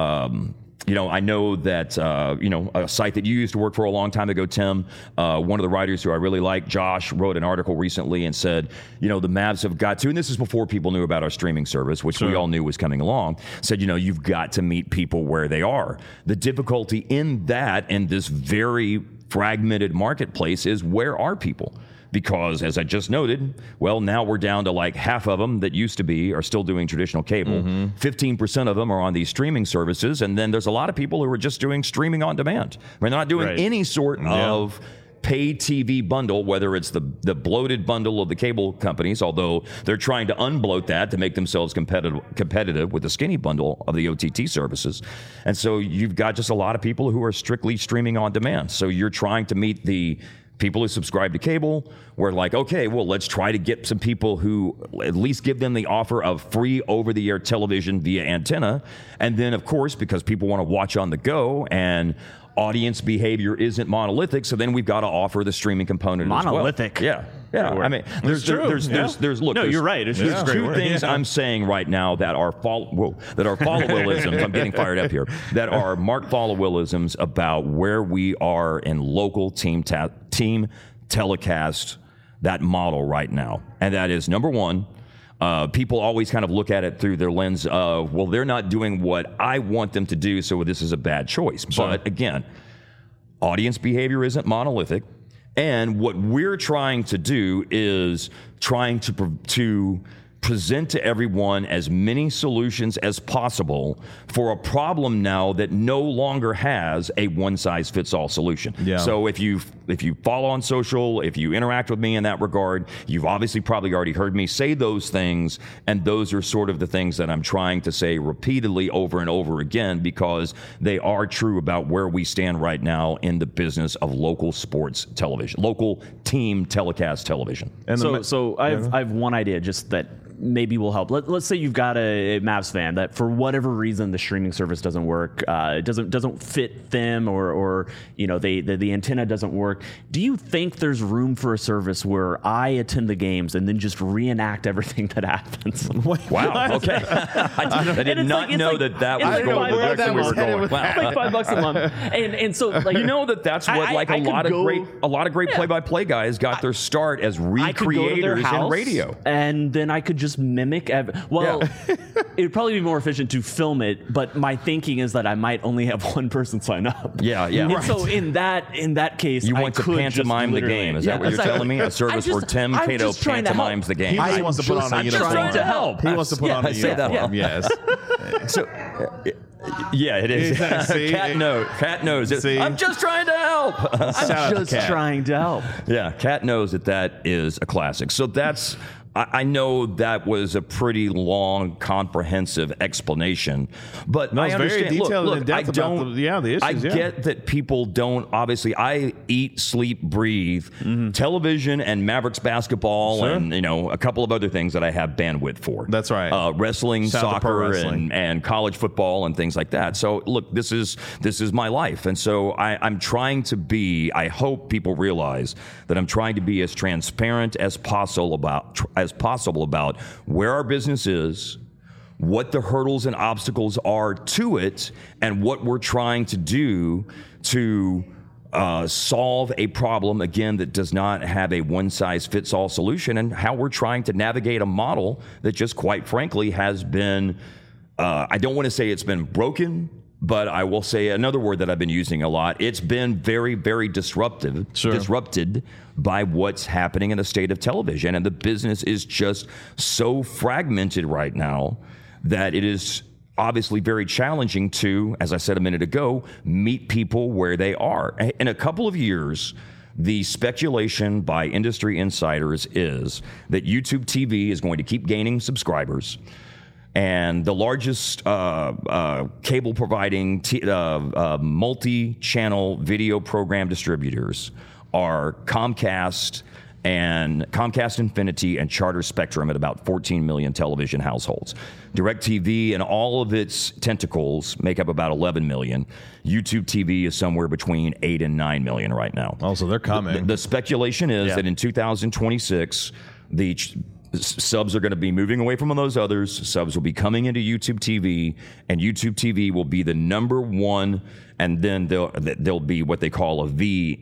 I know that, a site that you used to work for a long time ago, Tim, one of the writers who I really like, Josh, wrote an article recently and said, the Mavs have got to, and this is before people knew about our streaming service, which we all knew was coming along, said, you've got to meet people where they are. The difficulty in that and this very fragmented marketplace is where are people? Because, as I just noted, well, now we're down to like half of them that used to be are still doing traditional cable. 15% of them are on these streaming services. And then there's a lot of people who are just doing streaming on demand. I mean, they're not doing any sort of pay TV bundle, whether it's the bloated bundle of the cable companies, although they're trying to unbloat that to make themselves competitive with the skinny bundle of the OTT services. And so you've got just a lot of people who are strictly streaming on demand. So you're trying to meet the people who subscribe to cable. We're like, okay, well, let's try to get some people who at least give them the offer of free over-the-air television via antenna. And then, of course, because people want to watch on the go and audience behavior isn't monolithic, so then we've got to offer the streaming component monolithic. as well. Yeah. I mean, there's look. No, you're right. It's there's two things I'm saying right now that are follow-willisms. I'm getting fired up here. That are Mark follow-willisms about where we are in local team telecast, that model right now, and that is number one. People always kind of look at it through their lens of, well, they're not doing what I want them to do, so this is a bad choice. Sure. But again, audience behavior isn't monolithic. And what we're trying to do is trying to present to everyone as many solutions as possible for a problem now that no longer has a one-size-fits-all solution. Yeah. So if you follow on social, if you interact with me in that regard, you've obviously probably already heard me say those things, and those are sort of the things that I'm trying to say repeatedly over and over again because they are true about where we stand right now in the business of local sports television, local team telecast television. And so I have one idea just that maybe will help. Let's say you've got a Mavs fan that for whatever reason the streaming service doesn't work, it doesn't fit them, or the antenna doesn't work. Do you think there's room for a service where I attend the games and then just reenact everything that happens? Wow. Okay. I did not know that was going the direction we were going. Wow. It's like $5 a month, and so like that's what a lot of great play-by-play guys got their start as recreators in radio, and then I could just mimic. It would probably be more efficient to film it, but my thinking is that I might only have one person sign up. Yeah. And so in that case, you want to pantomime the game. Is that what you're telling me? A service where Tim Cato pantomimes the game. He just wants to put on a uniform. I'm trying to help. He wants to put on a uniform. Yes. So. Yeah, it is. Cat knows. I'm just trying to help. I'm just trying to help. Yeah, Cat knows that is a classic. So that's. I know that was a pretty long, comprehensive explanation, but I understand. Very detailed and in depth about the issues. I get that people don't. Obviously, I eat, sleep, breathe television and Mavericks basketball, and a couple of other things that I have bandwidth for. That's right. Wrestling, soccer, and college football and things like that. So look, this is my life, and so I'm trying to be. I hope people realize that I'm trying to be as transparent as possible about where our business is, what the hurdles and obstacles are to it, and what we're trying to do to solve a problem, again, that does not have a one-size-fits-all solution, and how we're trying to navigate a model that just quite frankly has been, I don't want to say it's been broken, But I will say another word that I've been using a lot. It's been very, very disrupted by what's happening in the state of television. And the business is just so fragmented right now that it is obviously very challenging to, as I said a minute ago, meet people where they are. In a couple of years, the speculation by industry insiders is that YouTube TV is going to keep gaining subscribers. And the largest cable providing multi-channel video program distributors are Comcast Infinity and Charter Spectrum at about 14 million television households. DirecTV and all of its tentacles make up about 11 million. YouTube TV is somewhere between 8 and 9 million right now. Oh, so they're coming. The speculation is that in 2026, the subs are going to be moving away from those others. Subs will be coming into YouTube TV, and YouTube TV will be the number one, and then they'll be what they call a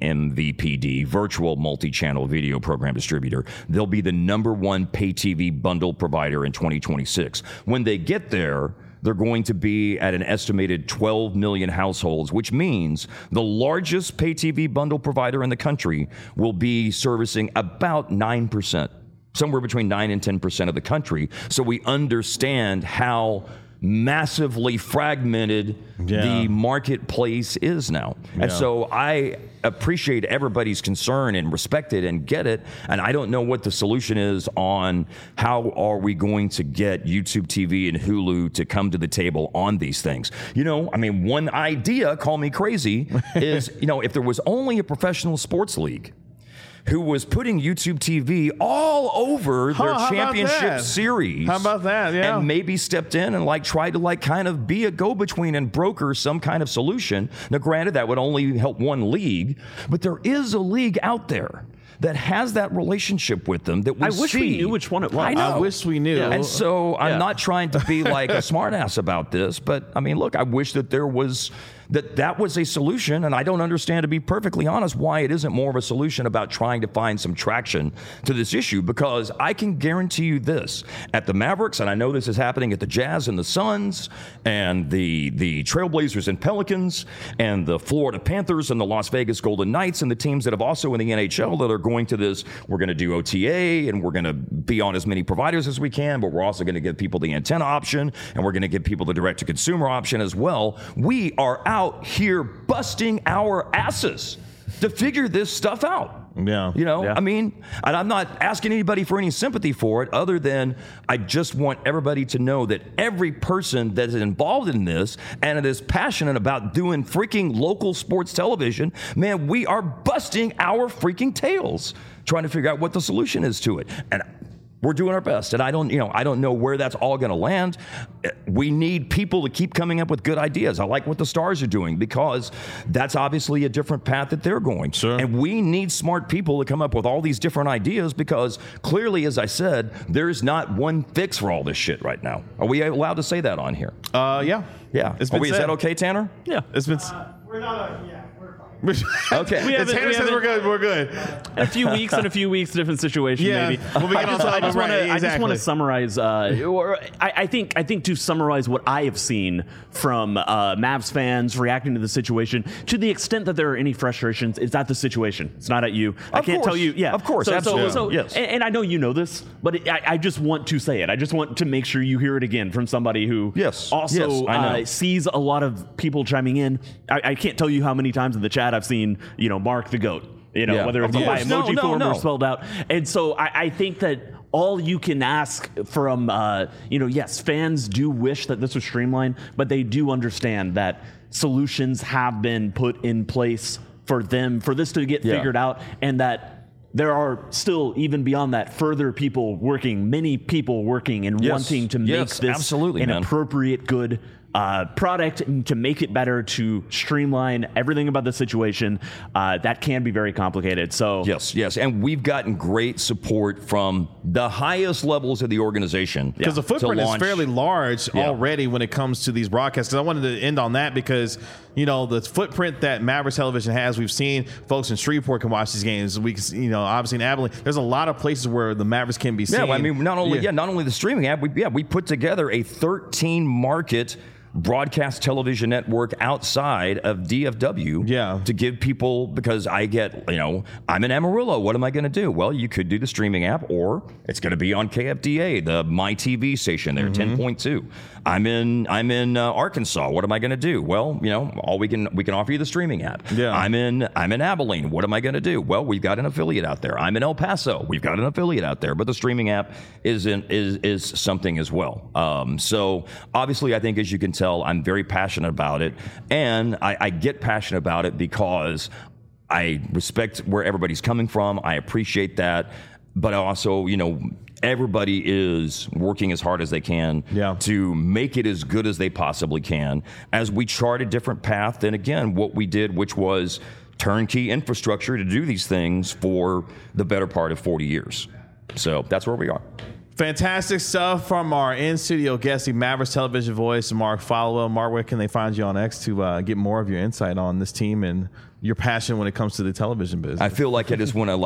vMVPD, virtual multi-channel video program distributor. They'll be the number one pay TV bundle provider in 2026. When they get there, they're going to be at an estimated 12 million households, which means the largest pay TV bundle provider in the country will be servicing about 9%. Somewhere between 9 and 10% of the country. So we understand how massively fragmented the marketplace is now. And so I appreciate everybody's concern and respect it and get it. And I don't know what the solution is on how are we going to get YouTube TV and Hulu to come to the table on these things. One idea, call me crazy, is, if there was only a professional sports league who was putting YouTube TV all over their championship series. How about that? Yeah. And maybe stepped in and tried to kind of be a go-between and broker some kind of solution. Now, granted, that would only help one league, but there is a league out there that has that relationship with them that we see. I wish we knew which one it was. I wish we knew. And so I'm not trying to be like a smartass about this, but look, I wish that there was that was a solution, and I don't understand, to be perfectly honest, why it isn't more of a solution about trying to find some traction to this issue, because I can guarantee you this, at the Mavericks, and I know this is happening at the Jazz and the Suns, and the Trailblazers and Pelicans, and the Florida Panthers and the Las Vegas Golden Knights, and the teams that have also in the NHL that are going to this, we're going to do OTA, and we're going to be on as many providers as we can, but we're also going to give people the antenna option, and we're going to give people the direct-to-consumer option as well. We are out here busting our asses to figure this stuff out. And I'm not asking anybody for any sympathy for it, other than I just want everybody to know that every person that is involved in this and that is passionate about doing freaking local sports television, man, we are busting our freaking tails trying to figure out what the solution is to it. And we're doing our best, and I don't know where that's all going to land. We need people to keep coming up with good ideas. I like what the Stars are doing, because that's obviously a different path that they're going. Sure. And we need smart people to come up with all these different ideas, because clearly, as I said, there's not one fix for all this shit right now. Are we allowed to say that on here? Yeah. Is that okay, Tanner? Yeah. It's been. We're not. Okay. Tanner says we're good. We're good. A few weeks, different situation, maybe. We'll be I just want to summarize. I think to summarize what I have seen from Mavs fans reacting to the situation, to the extent that there are any frustrations, it's at the situation. It's not at you. I can't tell you. Yeah, of course, absolutely. Yes. And I know you know this, but I just want to say it. I just want to make sure you hear it again from somebody who also sees a lot of people chiming in. I can't tell you how many times in the chat I've seen, Mark the GOAT, whether it's by emoji form or spelled out. And so I think that all you can ask from, yes, fans do wish that this was streamlined, but they do understand that solutions have been put in place for this to get figured out, and that there are still, even beyond that, many people working and wanting to make this an appropriate, good product, and to make it better, to streamline everything about the situation. That can be very complicated. So yes, and we've gotten great support from the highest levels of the organization, because the footprint is fairly large already when it comes to these broadcasts. And I wanted to end on that because the footprint that Mavericks Television has, we've seen folks in Shreveport can watch these games. We can, obviously in Abilene, there's a lot of places where the Mavericks can be seen. Not only the streaming app, we put together a 13 market broadcast television network outside of DFW to give people, because I get, I'm in Amarillo. What am I going to do? Well, you could do the streaming app, or it's going to be on KFDA, the My TV station there, 10.2. I'm in Arkansas. What am I going to do? Well, we can offer you the streaming app. Yeah. I'm in Abilene. What am I going to do? Well, we've got an affiliate out there. I'm in El Paso. We've got an affiliate out there. But the streaming app is something as well. So obviously, I think, as you can tell, I'm very passionate about it, and I get passionate about it because I respect where everybody's coming from. I appreciate that, but also, everybody is working as hard as they can to make it as good as they possibly can as we chart a different path than, again, what we did, which was turnkey infrastructure to do these things for the better part of 40 years. So that's where we are. Fantastic stuff from our in-studio guest, the Mavericks television voice, Mark Follow. Mark, where can they find you on X to get more of your insight on this team and your passion when it comes to the television business? I feel like I just want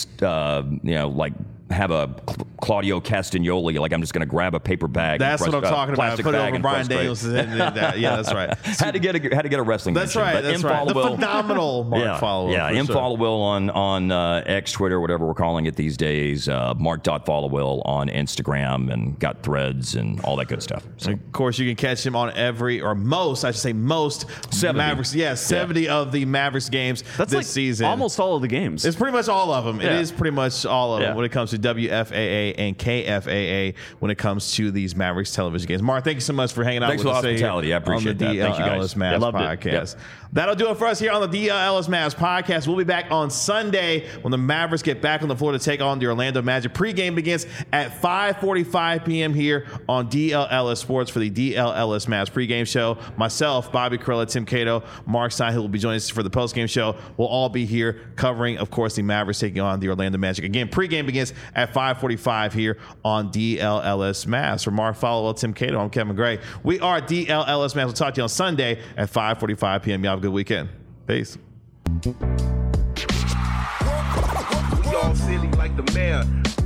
to have a Claudio Castagnoli, like I'm just going to grab a paper bag. That's what I'm talking about. Put it over Brian Daniels. Yeah, that's right. Had to get a wrestling. That's mention, right. That's right. The phenomenal Mark Followill. Yeah, Followill on X, Twitter, whatever we're calling it these days. Mark.Followill on Instagram, and got threads and all that good stuff. So. Of course, you can catch him on most 70. Mavericks. Yeah, 70 of the Mavericks games this season. Almost all of the games. It's pretty much all of them. It is pretty much all of them when it comes to WFAA and KFAA when it comes to these Mavericks television games. Mark, thank you so much for hanging out with us. Thanks for the hospitality. I appreciate that. Thank you guys. Mavs podcast. That'll do it for us here on the DLLS Mavs podcast. We'll be back on Sunday when the Mavericks get back on the floor to take on the Orlando Magic. Pre-game begins at 5:45 p.m. here on DLLS Sports for the DLLS Mavs pregame show. Myself, Bobby Carrella, Tim Cato, Mark Stein, who will be joining us for the postgame show. We'll all be here covering, of course, the Mavericks taking on the Orlando Magic. Again, pregame begins at 5:45 here on DLLS Mavs. For Mark Followill, Tim Cato, I'm Kevin Gray. We are DLLS Mavs. We'll talk to you on Sunday at 5:45 p.m. Y'all have a good weekend. Peace. We all silly like the mayor.